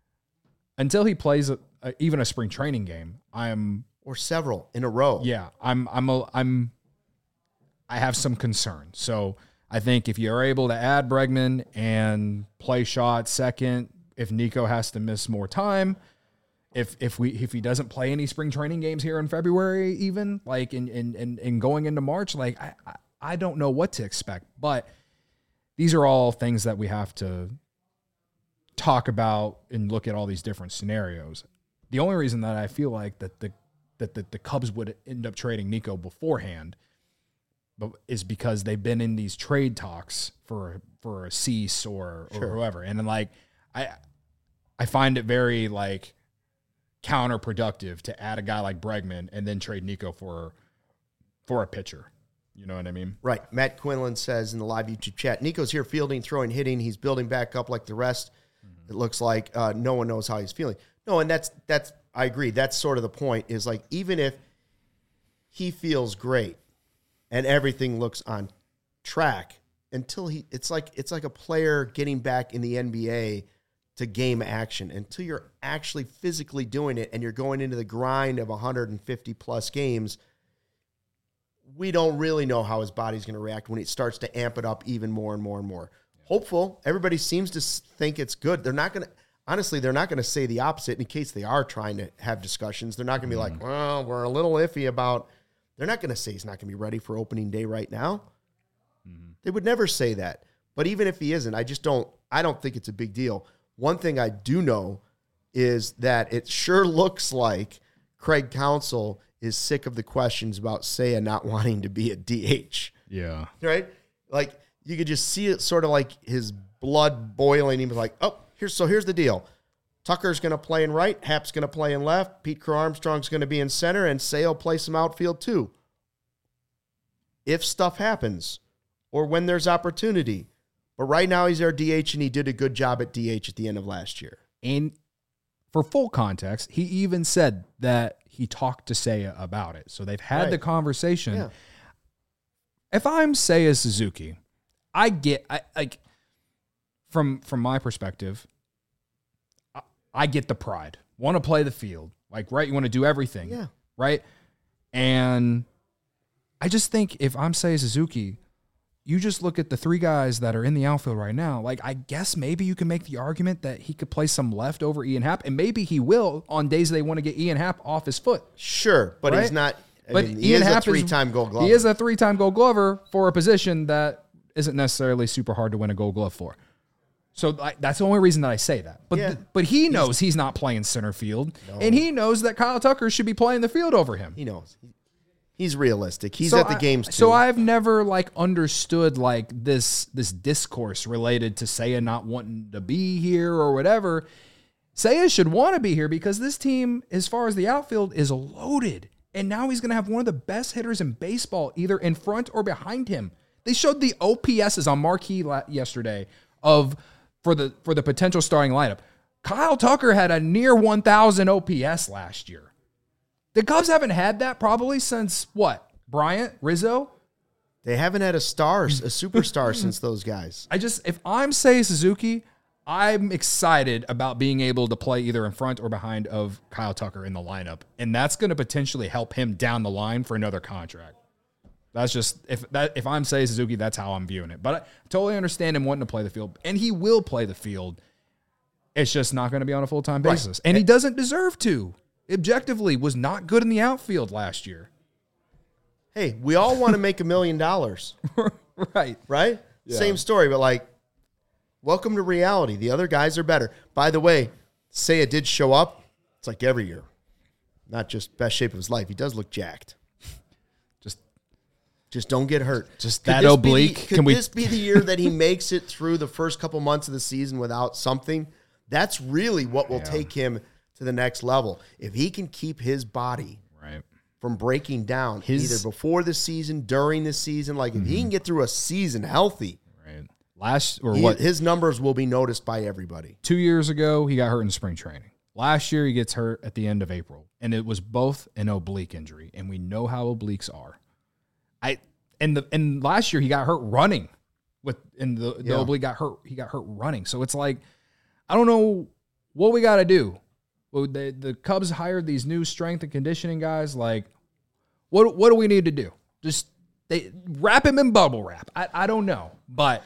S2: until he plays a, a, even a spring training game, I'm
S1: Or several in a row.
S2: yeah, I'm I'm a, I'm I have some concern. So I think if you're able to add Bregman and play Shaw at second, if Nico has to miss more time, if if we if he doesn't play any spring training games here in February, even like in in in, in going into March, like I, I I don't know what to expect. But these are all things that we have to talk about and look at all these different scenarios. The only reason that I feel like that the that the, the Cubs would end up trading Nico beforehand, but is because they've been in these trade talks for for a Cease or or
S1: Sure.
S2: whoever, and then like I I find it very like counterproductive to add a guy like Bregman and then trade Nico for for a pitcher. You know what I mean?
S1: Right. Matt Quinlan says in the live YouTube chat, Nico's here fielding, throwing, hitting. He's building back up like the rest. It looks like uh, no one knows how he's feeling. No, and that's, that's, I agree. That's sort of the point, is like, even if he feels great and everything looks on track until he, it's like, it's like a player getting back in the N B A to game action until you're actually physically doing it and you're going into the grind of one hundred fifty plus games. We don't really know how his body's going to react when it starts to amp it up even more and more and more. Hopeful. Everybody seems to think it's good. They're not going to, honestly, they're not going to say the opposite in case they are trying to have discussions. They're not going to be like, well, we're a little iffy about, they're not going to say he's not going to be ready for opening day right now. Mm-hmm. They would never say that. But even if he isn't, I just don't, I don't think it's a big deal. One thing I do know is that it sure looks like Craig Counsell is sick of the questions about Seiya not wanting to be a D H.
S2: Yeah.
S1: Right? Like, you could just see it sort of like his blood boiling. He was like, oh, here's so here's the deal. Tucker's going to play in right. Hap's going to play in left. Pete Crow Armstrong's going to be in center. And Seiya will play some outfield too. If stuff happens or when there's opportunity. But right now he's our D H, and he did a good job at D H at the end of last year.
S2: And for full context, he even said that he talked to Seiya about it. So they've had
S1: Right.
S2: the conversation.
S1: Yeah.
S2: If I'm Seiya Suzuki, I get I like from from my perspective, I, I get the pride. Want to play the field. Like, right, you want to do everything.
S1: Yeah.
S2: Right? And I just think if I'm Seiya Suzuki, you just look at the three guys that are in the outfield right now. Like, I guess maybe you can make the argument that he could play some left over Ian Happ, and maybe he will on days they want to get Ian Happ off his foot.
S1: Sure, but
S2: Right?
S1: he's not. I
S2: But
S1: mean, he
S2: Ian
S1: is
S2: Happ
S1: a three-time Gold Glover.
S2: He is a three-time Gold Glover for a position that isn't necessarily super hard to win a Gold Glove for. So I, that's the only reason that I say that. But
S1: Yeah.
S2: th- but he knows he's not playing center field, and he knows that Kyle Tucker should be playing the field over him.
S1: He knows. He's realistic. He's
S2: So
S1: at the
S2: I-
S1: games too.
S2: So I've never like understood like this this discourse related to Seiya not wanting to be here or whatever. Seiya should want to be here because this team, as far as the outfield, is loaded. And now he's going to have one of the best hitters in baseball, either in front or behind him. They showed the O P S's on Marquee la- yesterday of for the for the potential starting lineup. Kyle Tucker had a near one thousand O P S last year. The Cubs haven't had that probably since what? Bryant, Rizzo?
S1: They haven't had a star, a superstar since those guys.
S2: I just, if I'm Seiya Suzuki, I'm excited about being able to play either in front or behind of Kyle Tucker in the lineup. And that's going to potentially help him down the line for another contract. That's just, if that if I'm Seiya Suzuki, that's how I'm viewing it. But I totally understand him wanting to play the field. And he will play the field. It's just not going to be on a full-time basis.
S1: Right.
S2: And he doesn't deserve to. Objectively, was not good in the outfield last year.
S1: Hey, we all want to make a million dollars,
S2: Right.
S1: right? Same story, but like, welcome to reality. The other guys are better. By the way, Seiya did show up. It's like every year. Not just best shape of his life. He does look jacked.
S2: Just
S1: Just don't get hurt.
S2: Just
S1: Could
S2: that
S1: this be
S2: oblique.
S1: the- could
S2: Can we-
S1: this be the year that he makes it through the first couple months of the season without something? That's really what will take him to the next level. If he can keep his body
S2: right.
S1: from breaking down
S2: His-
S1: either before the season, during the season, like if he
S2: Mm-hmm.
S1: can get through a season healthy,
S2: Right. Last or
S1: he-
S2: what?
S1: his numbers will be noticed by everybody.
S2: Two years ago, he got hurt in spring training. Last year, he gets hurt at the end of April, and it was both an oblique injury, and we know how obliques are. I and the and last year he got hurt running, with and the, the
S1: Yeah.
S2: oblique got hurt. He got hurt running, so it's like I don't know what we got to do. Well, the the Cubs hired these new strength and conditioning guys. Like, what what do we need to do? Just they wrap him in bubble wrap. I I don't know, but.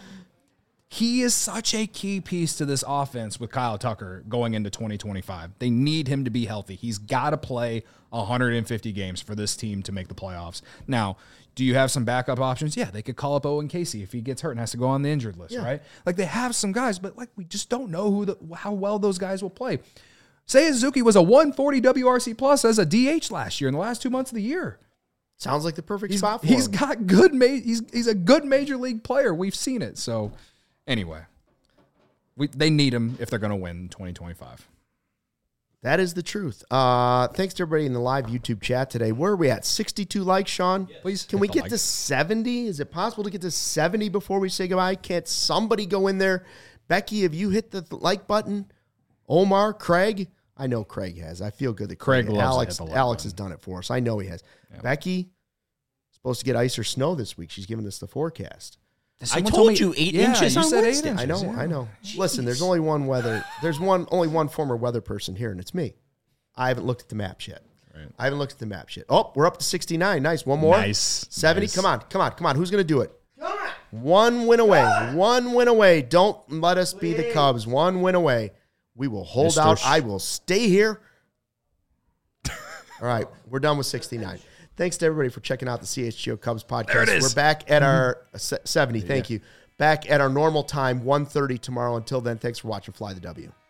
S2: He is such a key piece to this offense with Kyle Tucker going into twenty twenty-five. They need him to be healthy. He's got to play one hundred fifty games for this team to make the playoffs. Now, do you have some backup options? Yeah, they could call up Owen Casey if he gets hurt and has to go on the injured list,
S1: Yeah.
S2: right? Like they have some guys, but like we just don't know who the, how well those guys will play. Seiya Suzuki was a one forty W R C plus as a D H last year in the last two months of the year.
S1: Sounds like the perfect
S2: He's,
S1: spot for
S2: he's
S1: him.
S2: got good. Ma- he's he's a good major league player. We've seen it. So anyway, we they need him if they're going to win twenty twenty-five.
S1: That is the truth. Uh, thanks to everybody in the live YouTube chat today. Where are we at? sixty-two likes, Sean?
S2: Please
S1: Can
S2: hit
S1: we
S2: the
S1: get
S2: like.
S1: to seventy? Is it possible to get to seventy before we say goodbye? Can't somebody go in there? Becky, have you hit the th- like button? Omar, Craig? I know Craig has. I feel good that Craig,
S2: Craig loves to
S1: Alex,
S2: hit the like
S1: Alex
S2: button.
S1: has done it for us. I know he has. Becky, supposed to get ice or snow this week. She's giving us the forecast.
S3: I
S2: Someone
S3: told
S2: me-
S3: you eight
S2: yeah,
S3: inches
S2: you
S3: on
S2: said
S3: Wednesday.
S2: eight inches.
S1: I know,
S2: yeah.
S1: I know. Listen, there's only one weather. There's one, only one former weather person here, and it's me. I haven't looked at the maps yet.
S2: Right.
S1: I haven't looked at the maps yet. Oh, we're up to sixty-nine. Nice. One more.
S2: Nice.
S1: seventy.
S2: Nice.
S1: Come on, come on, come on. Who's going to do it? One win away. One win away. Don't let us be the Cubs. One win away. We will hold
S2: Mister
S1: out.
S2: Sh-
S1: I will stay here. All right, we're done with sixty-nine. Thanks to everybody for checking out the C H G O Cubs podcast.
S2: There it is.
S1: We're back at our uh, se- seventy. Thank you. Back at our normal time, one thirty tomorrow. Until then, thanks for watching Fly the W.